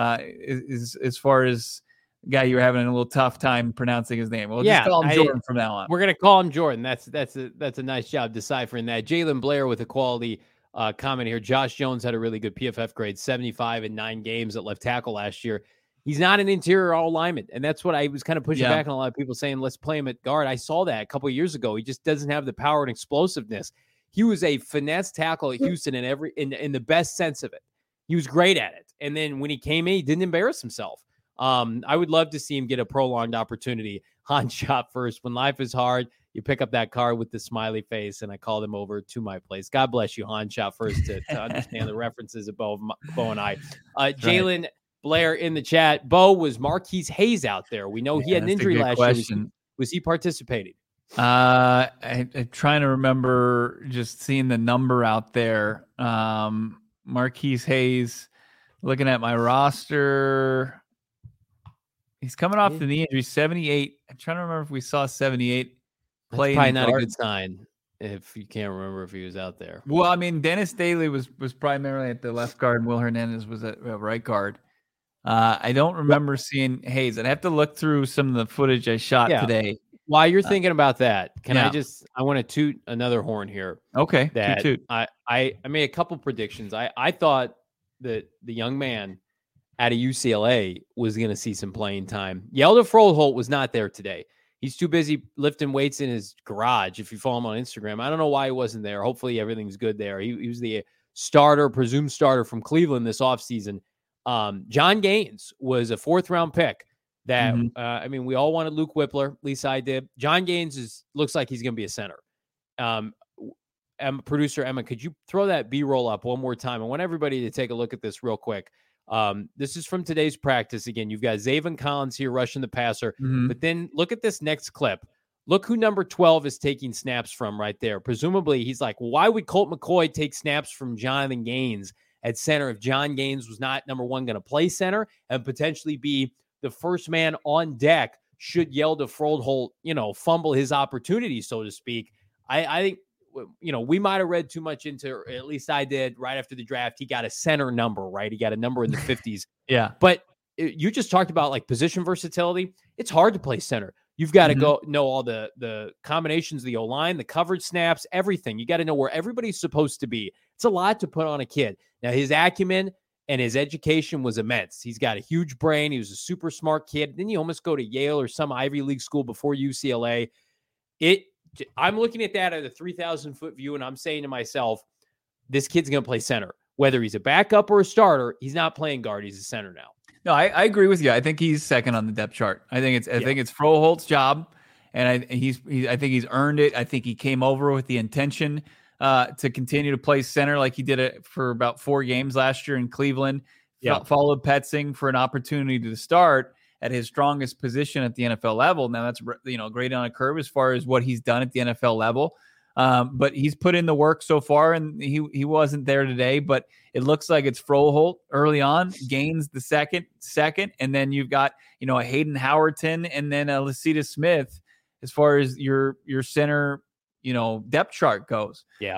As far as guy you were having a little tough time pronouncing his name. We'll just call him Jordan from now on. We're going to call him Jordan. That's a nice job deciphering that. Jalen Blair with a quality comment here. Josh Jones had a really good PFF grade, 75 in 9 games at left tackle last year. He's not an interior all lineman, and that's what I was kind of pushing back on a lot of people saying, let's play him at guard. I saw that a couple of years ago. He just doesn't have the power and explosiveness. He was a finesse tackle at Houston in the best sense of it. He was great at it. And then when he came in, he didn't embarrass himself. I would love to see him get a prolonged opportunity. Hans shot first. When life is hard, you pick up that card with the smiley face, and I called him over to my place. God bless you, Hans shot first, to understand the references of Bo and I. Jalen Blair in the chat. Bo, was Marquise Hayes out there? We know he had an injury last year. Was he participating? I'm trying to remember just seeing the number out there. Marquise Hayes, looking at my roster. He's coming off the knee injury, 78. I'm trying to remember if we saw 78 play. That's probably not a good sign if you can't remember if he was out there. Well, I mean, Dennis Daly was primarily at the left guard, and Will Hernandez was at right guard. I don't remember seeing Hayes. I'd have to look through some of the footage I shot today. While you're thinking about that, I want to toot another horn here. Okay. That I made a couple predictions. I thought that the young man out of UCLA was going to see some playing time. Yelda Froholt was not there today. He's too busy lifting weights in his garage. If you follow him on Instagram, I don't know why he wasn't there. Hopefully everything's good there. He was the presumed starter from Cleveland this offseason. John Gaines was a 4th-round pick that, we all wanted Luke Whippler. At least I did. John Gaines looks like he's going to be a center. Producer Emma, could you throw that B-roll up one more time? I want everybody to take a look at this real quick. This is from today's practice. Again, you've got Zaven Collins here rushing the passer, but then look at this next clip. Look who number 12 is taking snaps from right there. Presumably, he's like, why would Colt McCoy take snaps from Jonathan Gaines at center if John Gaines was not, number one, going to play center and potentially be the first man on deck should Yelda Froholt, fumble his opportunity, so to speak. I think, we might have read too much into, or at least I did, right after the draft. He got a center number, right? He got a number in the 50s. Yeah. But you just talked about like position versatility. It's hard to play center. You've got to go know all the combinations of the O-line, the coverage snaps, everything. You got to know where everybody's supposed to be. It's a lot to put on a kid. Now, his acumen and his education was immense. He's got a huge brain. He was a super smart kid. Then you almost go to Yale or some Ivy League school before UCLA. I'm looking at that at a 3,000-foot view, and I'm saying to myself, this kid's going to play center. whether he's a backup or a starter, he's not playing guard. He's a center now. No, I agree with you. I think he's second on the depth chart. I think it's Froholt's job, and I think he's earned it. I think he came over with the intention to continue to play center like he did it for about 4 games last year in Cleveland. Followed Petzing for an opportunity to start at his strongest position at the NFL level. Now that's great on a curve as far as what he's done at the NFL level. But he's put in the work so far, and he wasn't there today. But it looks like it's Froholdt early on, Gaines the second, and then you've got a Hayden Howerton and then a Lacita Smith as far as your center depth chart goes. Yeah.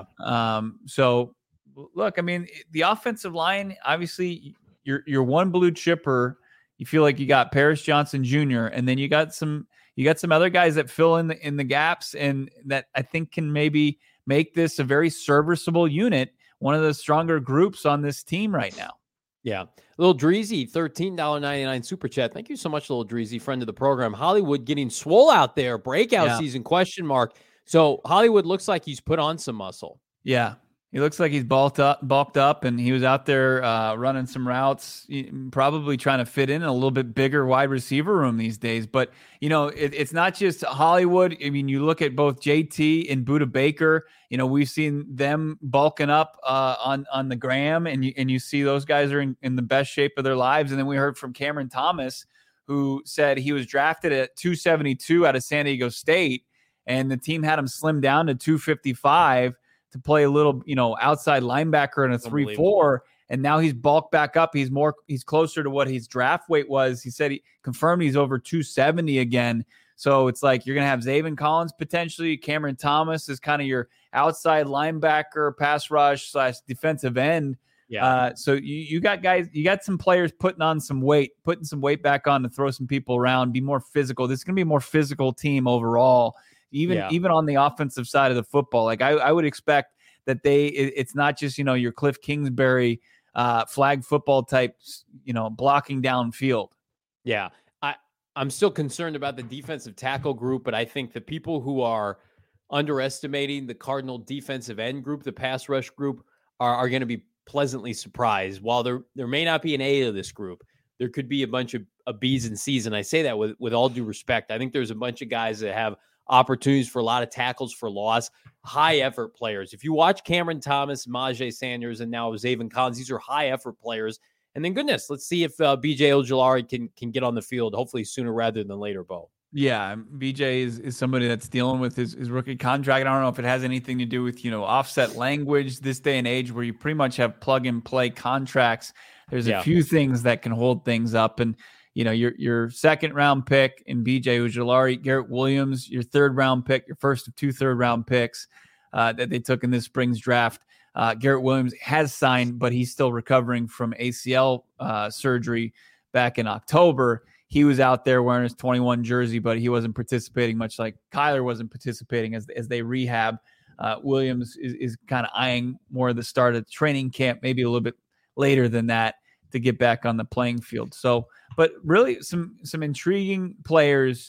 So look, I mean, the offensive line, obviously, you're one blue chipper. You feel like you got Paris Johnson Jr. and then you got some other guys that fill in the gaps, and that I think can maybe make this a very serviceable unit, one of the stronger groups on this team right now. Yeah. Little Dreezy, $13.99 super chat. Thank you so much, Little Dreezy, friend of the program. Hollywood getting swole out there, breakout season, question mark. So Hollywood looks like he's put on some muscle. Yeah. He looks like he's bulked up, and he was out there running some routes, probably trying to fit in a little bit bigger wide receiver room these days. But, it's not just Hollywood. I mean, you look at both JT and Budda Baker. We've seen them bulking up on the gram, and you see those guys are in the best shape of their lives. And then we heard from Cameron Thomas, who said he was drafted at 272 out of San Diego State, and the team had him slim down to 255. To play a little, outside linebacker in a 3-4, and now he's bulked back up. He's closer to what his draft weight was. He said he confirmed he's over 270 again. So it's like you're going to have Zaven Collins potentially. Cameron Thomas is kind of your outside linebacker, pass rush / defensive end. Yeah. So you got guys, you got some players putting some weight back on to throw some people around, be more physical. This is going to be a more physical team overall. Even on the offensive side of the football, like I would expect that it's not just, your Cliff Kingsbury flag football types, blocking downfield. Yeah. I'm still concerned about the defensive tackle group, but I think the people who are underestimating the Cardinal defensive end group, the pass rush group, are going to be pleasantly surprised. While there may not be an A to this group, there could be a bunch of B's and C's. And I say that with all due respect. I think there's a bunch of guys that have opportunities for a lot of tackles for loss, high effort players. If you watch Cameron Thomas, Myjai Sanders, and now Zaven Collins, these are high effort players. And then goodness, let's see if BJ Ojulari can get on the field, hopefully sooner rather than later, Bo. Yeah, BJ is somebody that's dealing with his rookie contract. I don't know if it has anything to do with, offset language this day and age where you pretty much have plug and play contracts. There's a few things that can hold things up. And your second round pick in BJ Ojulari, Garrett Williams, your third round pick, your first of 2 third-round picks that they took in this spring's draft. Garrett Williams has signed, but he's still recovering from ACL surgery back in October. He was out there wearing his 21 jersey, but he wasn't participating, much like Kyler wasn't participating as they rehab. Williams is kind of eyeing more of the start of training camp, maybe a little bit later than that, to get back on the playing field. So, but really some intriguing players.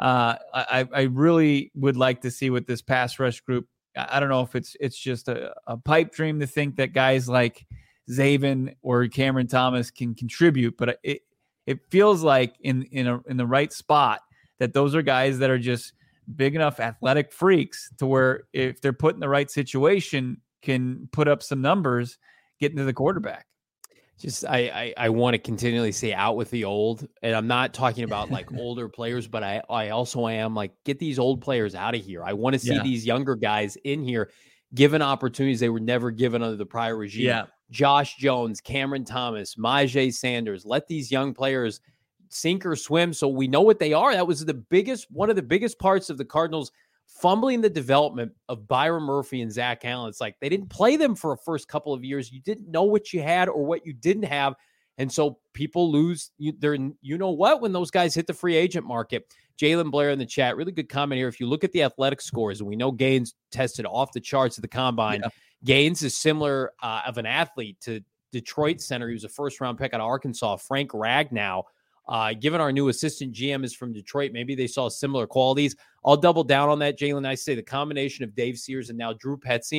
I really would like to see with this pass rush group. I don't know if it's just a pipe dream to think that guys like Zaven or Cameron Thomas can contribute, but it feels like in the right spot that those are guys that are just big enough athletic freaks to where if they're put in the right situation can put up some numbers getting to the quarterback. Just I want to continually say out with the old, and I'm not talking about like older players, but I also am like, get these old players out of here. I want to see these younger guys in here given opportunities they were never given under the prior regime. Yeah. Josh Jones, Cameron Thomas, Myjai Sanders, let these young players sink or swim so we know what they are. That was one of the biggest parts of the Cardinals fumbling the development of Byron Murphy and Zach Allen. It's like they didn't play them for a first couple of years. You didn't know what you had or what you didn't have. And so people lose when those guys hit the free agent market. Jalen Blair in the chat, really good comment here. If you look at the athletic scores, and we know Gaines tested off the charts at the combine, Gaines is similar of an athlete to Detroit center. He was a first-round pick out of Arkansas, Frank Ragnow. Given our new assistant GM is from Detroit, maybe they saw similar qualities. I'll double down on that, Jalen. I say the combination of Dave Sears and now Drew Petzing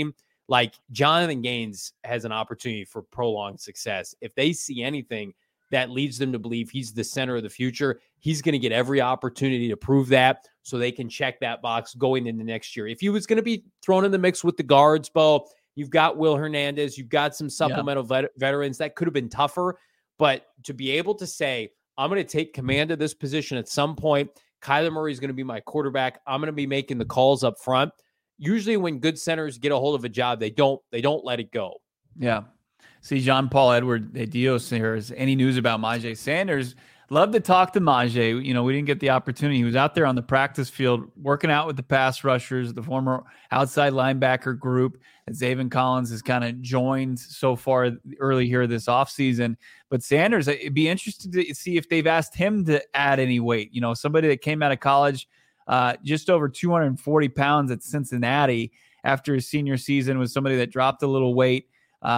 like Jonathan Gaines has an opportunity for prolonged success. If they see anything that leads them to believe he's the center of the future, he's going to get every opportunity to prove that so they can check that box going into next year. If he was going to be thrown in the mix with the guards, Bo, you've got Will Hernandez, you've got some supplemental veterans. That could have been tougher, but to be able to say, I'm going to take command of this position at some point, Kyler Murray is going to be my quarterback, I'm going to be making the calls up front. Usually when good centers get a hold of a job, they don't let it go. Yeah. See, Jean-Paul Edward Dios here. Is any news about Myjai Sanders? Love to talk to Myjai. You know, we didn't get the opportunity. He was out there on the practice field working out with the pass rushers, the former outside linebacker group that Zaven Collins has kind of joined so far early here this offseason. But Sanders, it'd be interesting to see if they've asked him to add any weight. You know, somebody that came out of college just over 240 pounds at Cincinnati after his senior season was somebody that dropped a little weight.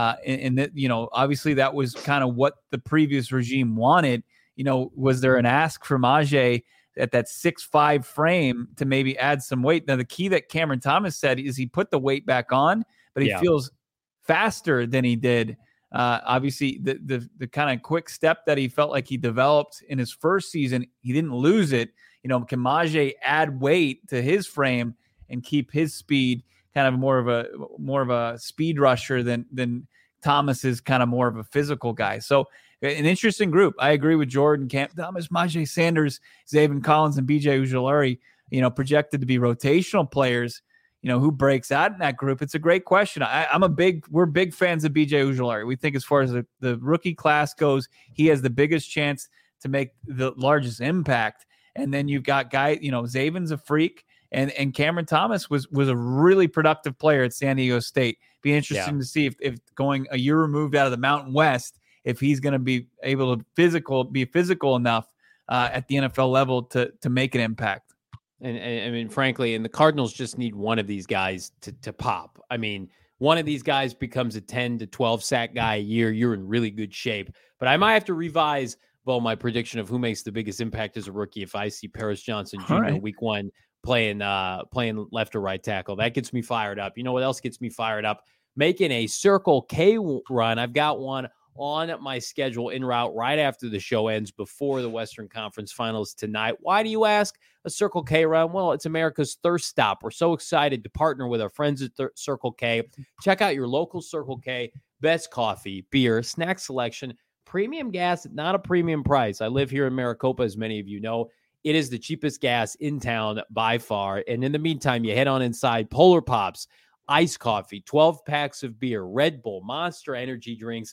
And that, you know, obviously that was kind of what the previous regime wanted. You know, was there an ask from Myjai at that 6'5" frame to maybe add some weight? Now, the key that Cameron Thomas said is he put the weight back on, but he feels faster than he did. Obviously, the kind of quick step that he felt like he developed in his first season, he didn't lose it. You know, can Myjai add weight to his frame and keep his speed kind of more of a speed rusher than Thomas is kind of more of a physical guy. So an interesting group. I agree with Jordan. Cam Thomas, Myjai Sanders, Zaven Collins, and B.J. Ojulari, you know, projected to be rotational players. You know, who breaks out in that group? It's a great question. We're big fans of B.J. Ojulari. We think as far as the rookie class goes, he has the biggest chance to make the largest impact. And then you've got Zaven's a freak. And Cameron Thomas was a really productive player at San Diego State. Be interesting to see if going a year removed out of the Mountain West, if he's going to be able to be physical enough at the NFL level to make an impact. And I mean, frankly, and the Cardinals just need one of these guys to pop. I mean, one of these guys becomes a 10 to 12 sack guy a year, you're in really good shape. But I might have to revise, my prediction of who makes the biggest impact as a rookie if I see Paris Johnson Jr. Week 1 playing left or right tackle. That gets me fired up. You know what else gets me fired up? Making a Circle K run. I've got one on my schedule en route right after the show ends, before the Western Conference Finals tonight. Why do you ask? A Circle K run? Well, it's America's thirst stop. We're so excited to partner with our friends at Circle K. Check out your local Circle K. Best coffee, beer, snack selection, premium gas at not a premium price. I live here in Maricopa, as many of you know. It is the cheapest gas in town by far. And in the meantime, you head on inside. Polar Pops, iced coffee, 12 packs of beer, Red Bull, Monster energy drinks.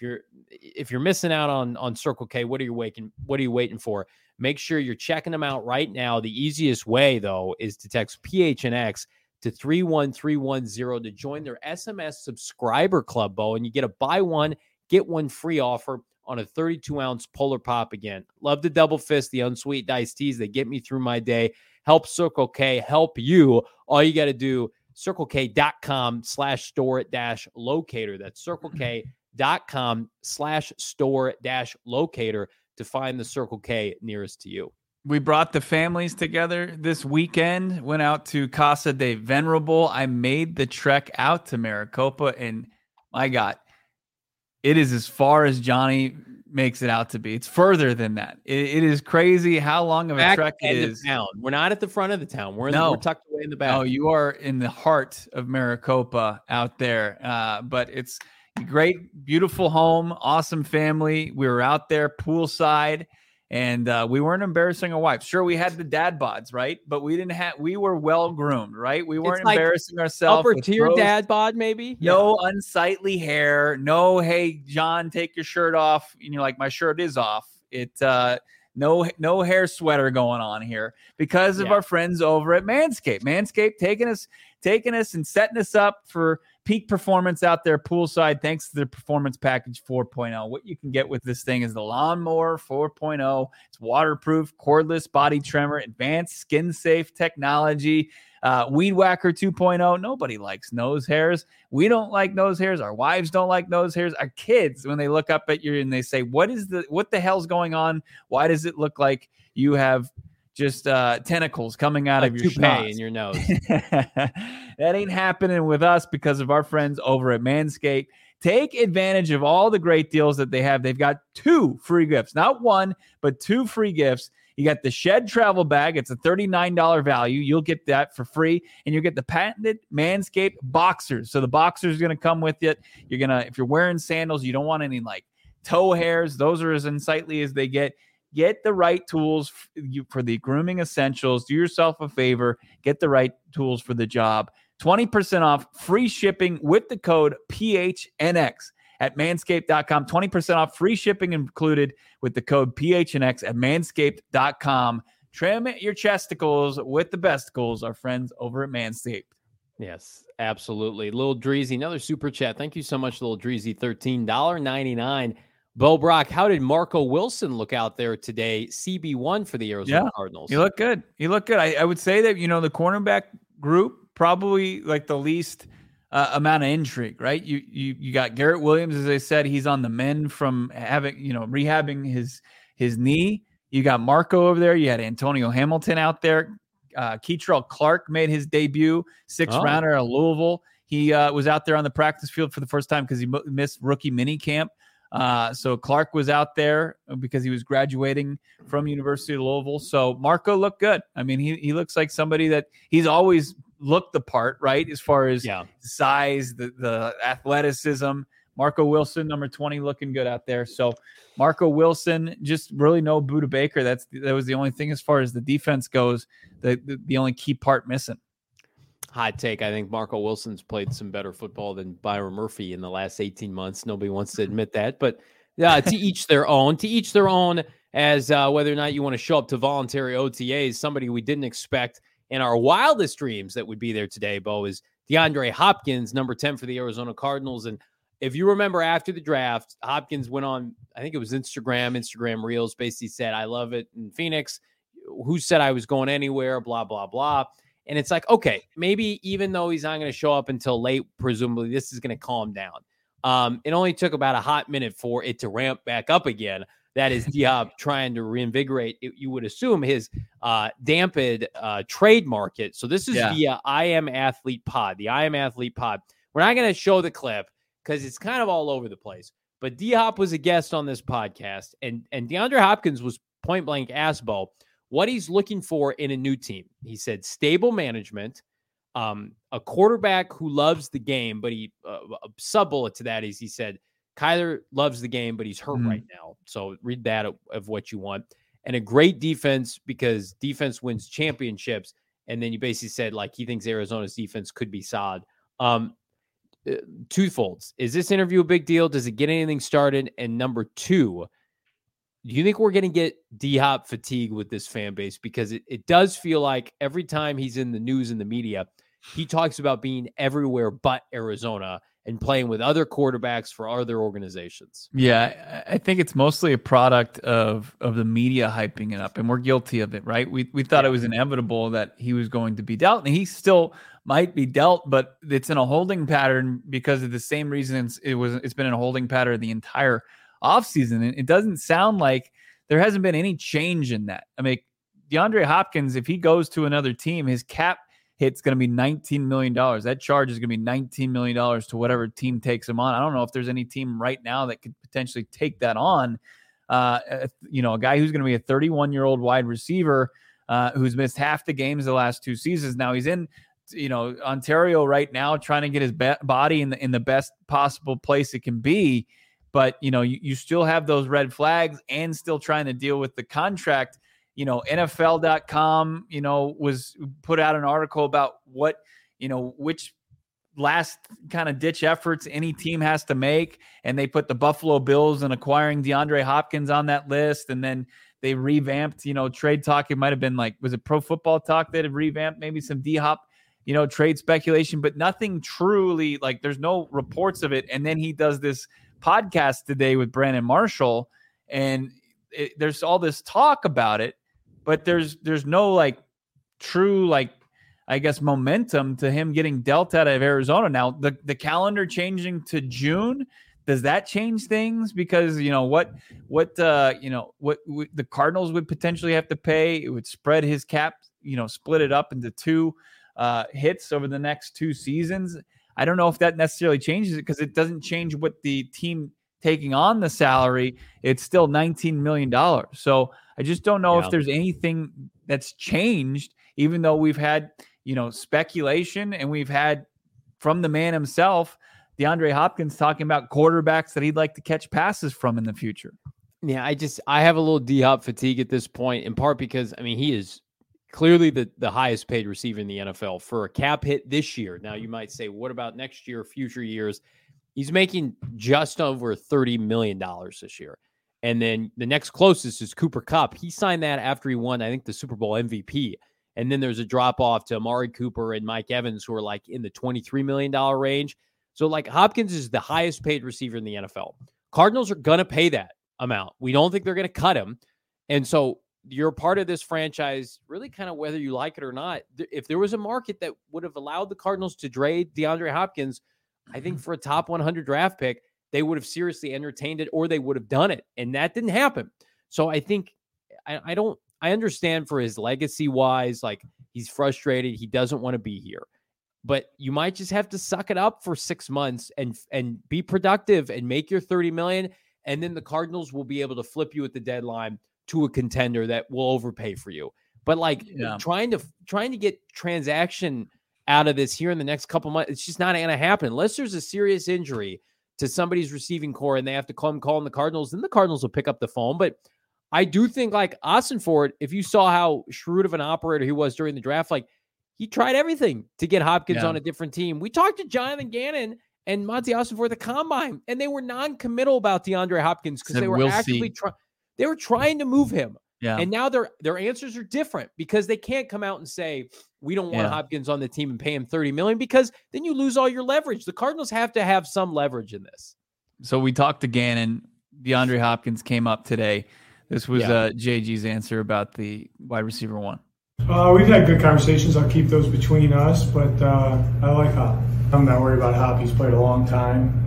If you're missing out on Circle K, what are you waiting for? Make sure you're checking them out right now. The easiest way, though, is to text PHNX to 31310 to join their SMS subscriber club, Bo, and you get a buy one, get one free offer on a 32-ounce Polar Pop. Again, love the double fist, the unsweetened iced teas. They get me through my day. Help Circle K help you. All you got to do, CircleK.com/store-locator. That's CircleK.com/store-locator to find the Circle K nearest to you. We brought the families together this weekend, went out to Casa de Venerable. I made the trek out to Maricopa, and my God, it is as far as Johnny makes it out to be. It's further than that. It is crazy how long of a trek it is. Town. We're not at the front of the town. We're tucked away in the back. No, you are in the heart of Maricopa out there. But it's a great, beautiful home, awesome family. We were out there poolside, and we weren't embarrassing our wives. Sure, we had the dad bods, right? But we were well groomed, right? We weren't embarrassing ourselves. Upper tier dad bod, maybe? No unsightly hair. No, hey, John, take your shirt off. And you're like, my shirt is off. No hair sweater going on here because of our friends over at Manscaped. Manscaped taking us and setting us up for peak performance out there poolside, thanks to the Performance Package 4.0. What you can get with this thing is the Lawnmower 4.0. It's waterproof, cordless body trimmer, advanced skin-safe technology, Weed Whacker 2.0. Nobody likes nose hairs. We don't like nose hairs. Our wives don't like nose hairs. Our kids, when they look up at you and they say, what the hell's going on? Why does it look like you have just tentacles coming out of your toupee schnoz in your nose. That ain't happening with us because of our friends over at Manscaped. Take advantage of all the great deals that they have. They've got 2 free gifts, not 1, but 2 free gifts. You got the Shed Travel Bag. It's a $39 value. You'll get that for free. And you'll get the patented Manscaped Boxers. So the Boxers are going to come with it. You're going to, if you're wearing sandals, you don't want any like toe hairs. Those are as unsightly as they get. Get the right tools for the grooming essentials. Do yourself a favor. Get the right tools for the job. 20% off, free shipping with the code PHNX at manscaped.com. 20% off, free shipping included with the code PHNX at manscaped.com. Trim your chesticles with the besticles, our friends over at Manscaped. Yes, absolutely. Lil Dreezy, another super chat. Thank you so much, Lil Dreezy. $13.99. Bo Brock, how did Marco Wilson look out there today? CB1 for the Arizona Cardinals. He looked good. I would say that, the cornerback group, probably like the least amount of intrigue, right? You got Garrett Williams, as I said, he's on the mend from having, rehabbing his knee. You got Marco over there. You had Antonio Hamilton out there. Keitrell Clark made his debut, 6th rounder at Louisville. He was out there on the practice field for the first time because he missed rookie mini camp. So Clark was out there because he was graduating from University of Louisville. So Marco looked good. I mean, he looks like somebody that he's always looked the part, right? As far as size, the athleticism. Marco Wilson, number 20, looking good out there. So Marco Wilson, just really no Budda Baker. That was the only thing as far as the defense goes, the only key part missing. Hot take. I think Marco Wilson's played some better football than Byron Murphy in the last 18 months. Nobody wants to admit that, but to each their own. To each their own, as whether or not you want to show up to voluntary OTAs. Somebody we didn't expect in our wildest dreams that would be there today, Bo, is DeAndre Hopkins, number 10 for the Arizona Cardinals. And if you remember after the draft, Hopkins went on, I think it was Instagram Reels, basically said, I love it in Phoenix. Who said I was going anywhere? Blah, blah, blah. And it's like, okay, maybe even though he's not going to show up until late, presumably this is going to calm down. It only took about a hot minute for it to ramp back up again. That is D-Hop trying to reinvigorate, you would assume, his dampened trade market. So this is via I Am Athlete Pod, the I Am Athlete Pod. We're not going to show the clip because it's kind of all over the place. But D-Hop was a guest on this podcast, and DeAndre Hopkins was point blank asked Bo what he's looking for in a new team. He said stable management, a quarterback who loves the game, but he a sub-bullet to that is he said, Kyler loves the game, but he's hurt right now. So read that of what you want. And a great defense, because defense wins championships. And then you basically said, like, he thinks Arizona's defense could be solid. Twofolds. Is this interview a big deal? Does it get anything started? And number 2, do you think we're going to get D-Hop fatigue with this fan base? Because it does feel like every time he's in the news and the media, he talks about being everywhere but Arizona and playing with other quarterbacks for other organizations. Yeah, I think it's mostly a product of the media hyping it up, and we're guilty of it, right? We thought it was inevitable that he was going to be dealt, and he still might be dealt, but it's in a holding pattern because of the same reasons it's been in a holding pattern the entire offseason. And it doesn't sound like there hasn't been any change in that. I mean, DeAndre Hopkins, if he goes to another team, his cap hit's going to be $19 million. That charge is going to be $19 million to whatever team takes him on. I don't know if there's any team right now that could potentially take that on. A guy who's going to be a 31-year-old wide receiver who's missed half the games the last 2 seasons. Now he's in, Ontario right now, trying to get his body in the best possible place it can be. But, you still have those red flags and still trying to deal with the contract. NFL.com, was put out an article about what, which last kind of ditch efforts any team has to make. And they put the Buffalo Bills and acquiring DeAndre Hopkins on that list. And then they revamped, trade talk. It might've been like, was it Pro Football Talk that had revamped maybe some D-Hop, trade speculation, but nothing truly, like, there's no reports of it. And then he does this podcast today with Brandon Marshall, and there's all this talk about it, but there's no like true, like, I guess, momentum to him getting dealt out of Arizona. Now the calendar changing to June, Does that change things? Because what the Cardinals would potentially have to pay. It would spread his cap, split it up into two hits over the next 2 seasons. I don't know if that necessarily changes it, because it doesn't change what the team taking on the salary. It's still $19 million. So I just don't know if there's anything that's changed, even though we've had, speculation, and we've had from the man himself, DeAndre Hopkins, talking about quarterbacks that he'd like to catch passes from in the future. Yeah, I have a little D-Hop fatigue at this point, in part because, he is clearly the highest paid receiver in the NFL for a cap hit this year. Now, you might say, what about next year, future years? He's making just over $30 million this year. And then the next closest is Cooper Kupp. He signed that after he won, I think, the Super Bowl MVP. And then there's a drop off to Amari Cooper and Mike Evans, who are like in the $23 million range. So like Hopkins is the highest paid receiver in the NFL. Cardinals are going to pay that amount. We don't think they're going to cut him. And so you're part of this franchise, really kind of whether you like it or not. If there was a market that would have allowed the Cardinals to trade DeAndre Hopkins, I think for a top 100 draft pick, they would have seriously entertained it, or they would have done it. And that didn't happen. So I think I understand for his legacy wise, like he's frustrated. He doesn't want to be here, but you might just have to suck it up for 6 months and be productive and make your 30 million. And then the Cardinals will be able to flip you at the deadline to a contender that will overpay for you. But like trying to get transaction out of this here in the next couple months, it's just not going to happen unless there's a serious injury to somebody's receiving core and they have to call in the Cardinals. Then the Cardinals will pick up the phone. But I do think like Ossenfort, if you saw how shrewd of an operator he was during the draft, like he tried everything to get Hopkins on a different team. We talked to Jonathan Gannon and Monty Ossenfort at the combine, and they were non-committal about DeAndre Hopkins because they were actively they were trying to move him. Yeah. And now their answers are different because they can't come out and say, we don't want Hopkins on the team and pay him $30 million, because then you lose all your leverage. The Cardinals have to have some leverage in this. So we talked to Gannon. DeAndre Hopkins came up today. This was JG's answer about the wide receiver one. We've had good conversations. I'll keep those between us, but I like Hop. I'm not worried about Hop. He's played a long time,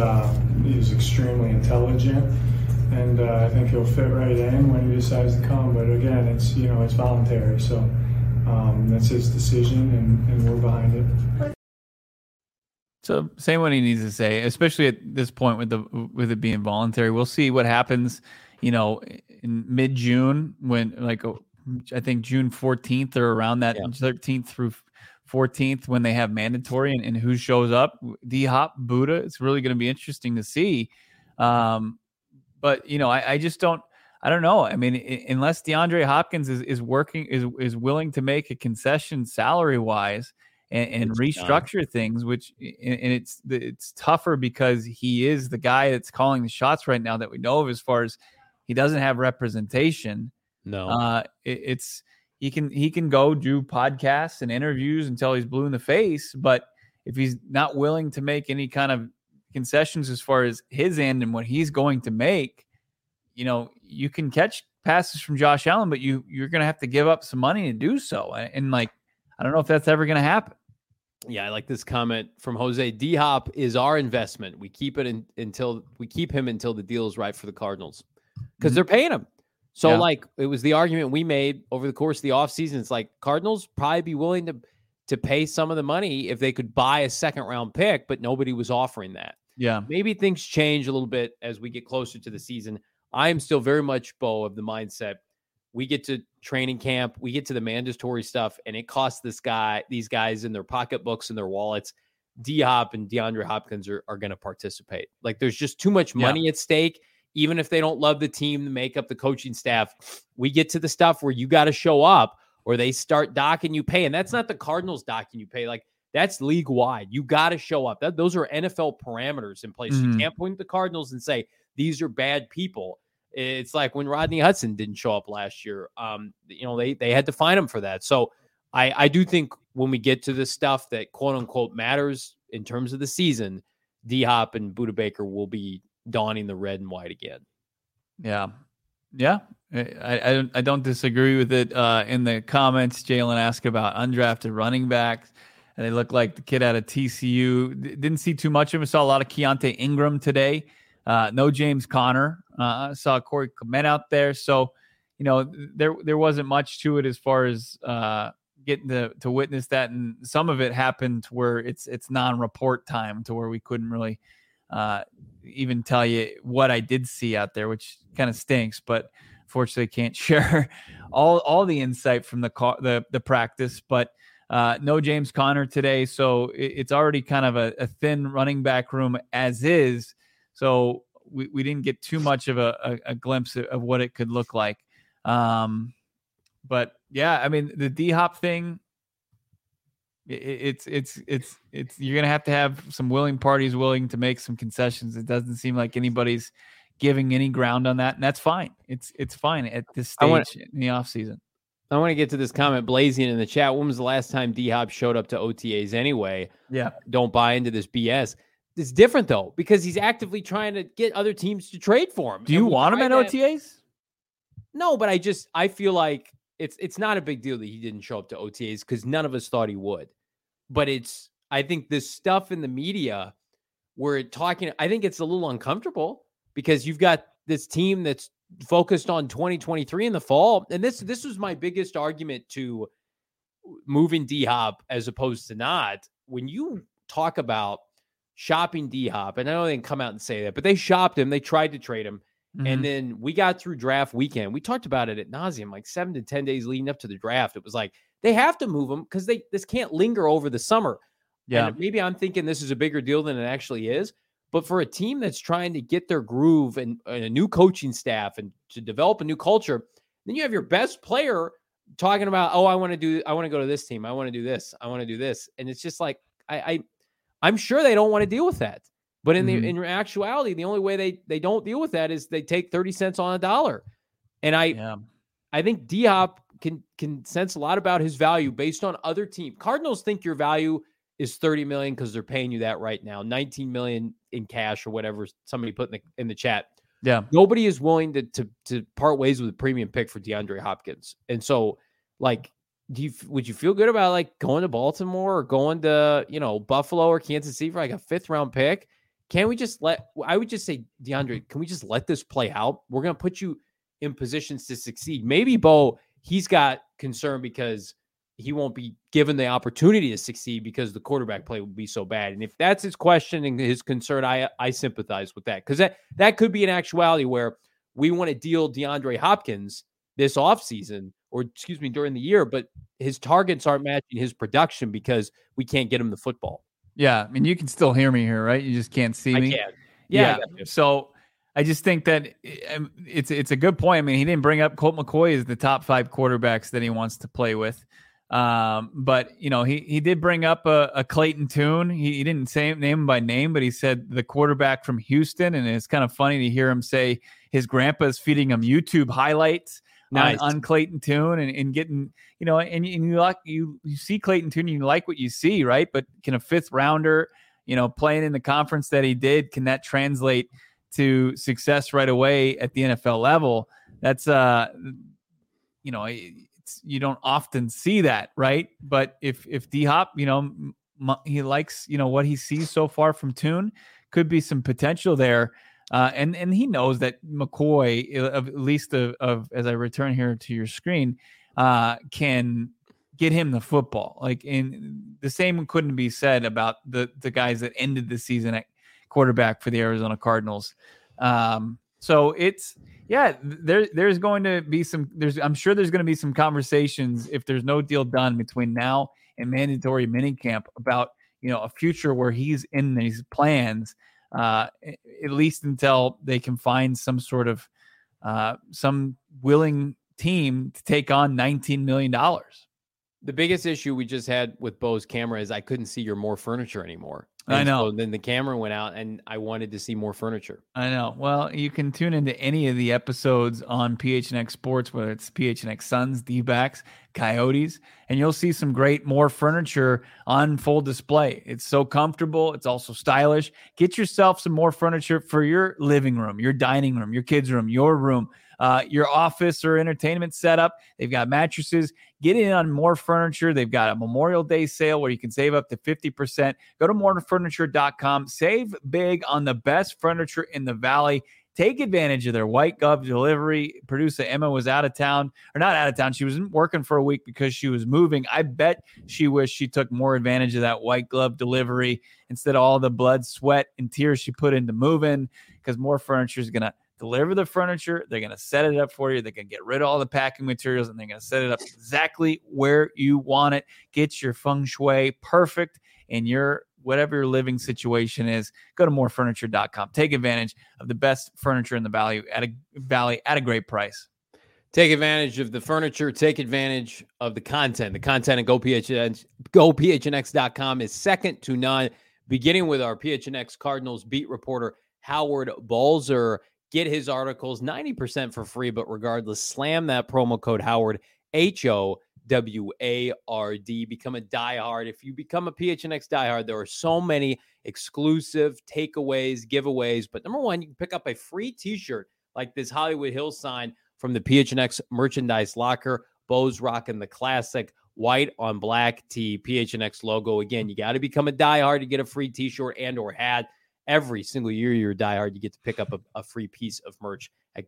and he's extremely intelligent. And I think he'll fit right in when he decides to come. But again, it's it's voluntary, so that's his decision, and we're behind it. So saying what he needs to say, especially at this point with it being voluntary. We'll see what happens, in mid-June when I think June 14th or around that 13th through 14th when they have mandatory and who shows up. D-Hop, Buddha. It's really going to be interesting to see. But I just don't know. Unless DeAndre Hopkins is willing to make a concession salary wise and restructure things, which and it's tougher because he is the guy that's calling the shots right now that we know of, as far as he doesn't have representation. No, he can go do podcasts and interviews until he's blue in the face, but if he's not willing to make any kind of concessions as far as his end and what he's going to make, you can catch passes from Josh Allen, but you're going to have to give up some money to do so. And I don't know if that's ever going to happen. Yeah, I like this comment from Jose. D-Hop is our investment. We keep him until the deal is right for the Cardinals because they're paying him. So it was the argument we made over the course of the offseason. It's like Cardinals probably be willing to pay some of the money if they could buy a second round pick, but nobody was offering that. Yeah. Maybe things change a little bit as we get closer to the season. I am still very much, Bo, of the mindset. We get to training camp, we get to the mandatory stuff, and it costs these guys in their pocketbooks and their wallets. D-Hop and DeAndre Hopkins are going to participate. Like there's just too much money at stake. Even if they don't love the team, the makeup, the coaching staff, we get to the stuff where you got to show up or they start docking you pay. And that's not the Cardinals docking you pay. Like that's league wide. You got to show up. Those are NFL parameters in place. You can't point at the Cardinals and say, these are bad people. It's like when Rodney Hudson didn't show up last year. They had to fine him for that. So I do think when we get to the stuff that quote unquote matters in terms of the season, D-Hop and Budda Baker will be donning the red and white again. Yeah. I don't disagree with it. In the comments, Jalen asked about undrafted running backs. and they look like the kid out of TCU. Didn't see too much of him. Saw a lot of Keontae Ingram today. No James Conner. Saw Corey Clement out there. So, there wasn't much to it as far as getting to witness that. And some of it happened where it's non-report time to where we couldn't really even tell you what I did see out there, which kind of stinks. But fortunately, can't share all the insight from the practice. But no James Conner today, so it's already kind of a thin running back room as is. So we didn't get too much of a glimpse of what it could look like. But yeah, I mean, the D-Hop thing, it's you're gonna have some willing parties willing to make some concessions. It doesn't seem like anybody's giving any ground on that, and that's fine. It's fine at this stage in the offseason. I want to get to this comment blazing in the chat. When was the last time D-Hop showed up to OTAs anyway? Yeah. Don't buy into this BS. It's different, though, because he's actively trying to get other teams to trade for him. Do you want him at OTAs? No, but I feel like it's not a big deal that he didn't show up to OTAs because none of us thought he would. But I think this stuff in the media where I think it's a little uncomfortable because you've got this team that's focused on 2023 in the fall. And this was my biggest argument to moving D-Hop as opposed to not. When you talk about shopping D-Hop, and I know they didn't come out and say that, but they shopped him. They tried to trade him. Mm-hmm. And then we got through draft weekend. We talked about it at nauseum, like 7 to 10 days leading up to the draft. It was like, they have to move him because this can't linger over the summer. Yeah. And maybe I'm thinking this is a bigger deal than it actually is. But for a team that's trying to get their groove and a new coaching staff and to develop a new culture, then you have your best player talking about, I want to go to this team. I want to do this. I want to do this. And it's just like, I'm sure they don't want to deal with that. But in actuality, the only way they don't deal with that is they take 30 cents on a dollar. And I think D-Hop can sense a lot about his value based on other teams. Cardinals think your value is $30 million because they're paying you that right now, $19 million in cash or whatever somebody put in the chat. Yeah. Nobody is willing to part ways with a premium pick for DeAndre Hopkins. And so, like, would you feel good about like going to Baltimore or going to, Buffalo or Kansas City for like a 5th round pick? Can we just I would just say, DeAndre, can we just let this play out? We're going to put you in positions to succeed. Maybe Bo, he's got concern because he won't be given the opportunity to succeed because the quarterback play will be so bad. And if that's his question and his concern, I sympathize with that. Because that could be an actuality where we want to deal DeAndre Hopkins this offseason, or during the year, but his targets aren't matching his production because we can't get him the football. Yeah. I mean, you can still hear me here, right? You just can't see me. I can. Yeah. So I just think that it's a good point. I mean, he didn't bring up Colt McCoy as the top 5 quarterbacks that he wants to play with. But he did bring up a Clayton Tune. He didn't name him by name, but he said the quarterback from Houston. And it's kind of funny to hear him say his grandpa is feeding him YouTube highlights on Clayton Tune and getting, and you see Clayton Tune, you like what you see, right? But can a 5th rounder, playing in the conference that he did, can that translate to success right away at the NFL level? That's, you don't often see that, right? But if D-Hop, he likes, what he sees so far from Tune, could be some potential there. And he knows that McCoy, at least as I return here to your screen, can get him the football. Like, in the same couldn't be said about the guys that ended the season at quarterback for the Arizona Cardinals. So there's going to be I'm sure there's going to be some conversations if there's no deal done between now and mandatory minicamp about, a future where he's in these plans, at least until they can find some sort of some willing team to take on $19 million. The biggest issue we just had with Bo's camera is I couldn't see your more furniture anymore. I know. So then the camera went out and I wanted to see more furniture. I know. Well, you can tune into any of the episodes on PHNX Sports, whether it's PHNX Suns, D-backs, Coyotes, and you'll see some great more furniture on full display. It's so comfortable. It's also stylish. Get yourself some more furniture for your living room, your dining room, your kids' room, your room. your office or entertainment setup. They've got mattresses. Get in on More Furniture. They've got a Memorial Day sale where you can save up to 50%. Go to morefurniture.com. Save big on the best furniture in the Valley. Take advantage of their white glove delivery. Producer Emma was out of town, or not out of town. She was working for a week because she was moving. I bet she wished she took more advantage of that white glove delivery instead of all the blood, sweat, and tears she put into moving, because More Furniture is going to deliver the furniture. They're going to set it up for you. They're going to get rid of all the packing materials, and they're going to set it up exactly where you want it. Get your feng shui perfect in your whatever your living situation is. Go to morefurniture.com. Take advantage of the best furniture in the Valley at a great price. Take advantage of the furniture. Take advantage of the content. The content at GoPHNX.com is second to none, beginning with our PHNX Cardinals beat reporter, Howard Balzer. Get his articles 90% for free, but regardless, slam that promo code Howard, HOWARD. Become a diehard. If you become a PHNX diehard, there are so many exclusive takeaways, giveaways. But number one, you can pick up a free t-shirt like this Hollywood Hills sign from the PHNX merchandise locker. Bo's rocking the classic white on black tee, PHNX logo. Again, you got to become a diehard to get a free t-shirt and or hat. Every single year you're a diehard, you get to pick up a free piece of merch at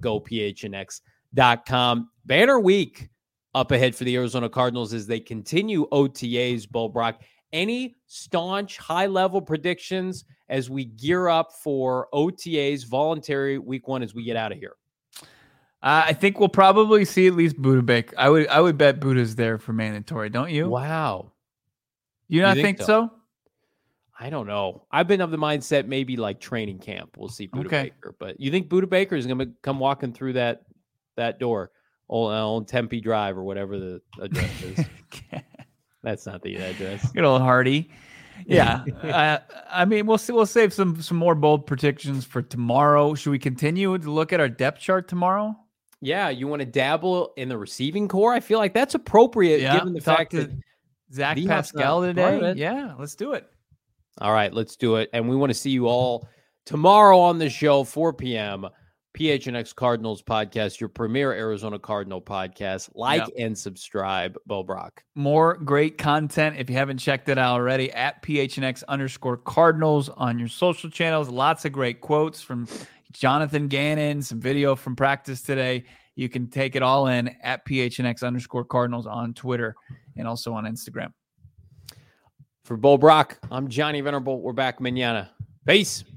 GoPHNX.com. Banner week up ahead for the Arizona Cardinals as they continue OTAs. Bo Brock, any staunch high-level predictions as we gear up for OTAs, voluntary week one, as we get out of here? I think we'll probably see at least Budda Baker. I would bet Buddha's there for mandatory, don't you? Wow. You not think so? I don't know. I've been of the mindset maybe like training camp. We'll see Budda Baker. But you think Budda Baker is going to come walking through that door? Old Tempe Drive or whatever the address is. That's not the address. Good old Hardy. Yeah. I mean, we'll save some more bold predictions for tomorrow. Should we continue to look at our depth chart tomorrow? Yeah. You want to dabble in the receiving core? I feel like that's appropriate given the fact that Zach Pascal today. Yeah, let's do it. All right, let's do it. And we want to see you all tomorrow on the show, 4 p.m., PHNX Cardinals podcast, your premier Arizona Cardinal podcast. Like and subscribe, Bo Brock. More great content if you haven't checked it out already at PHNX_Cardinals on your social channels. Lots of great quotes from Jonathan Gannon, some video from practice today. You can take it all in at PHNX_Cardinals on Twitter and also on Instagram. For Bo Brock, I'm Johnny Venerable. We're back mañana. Peace.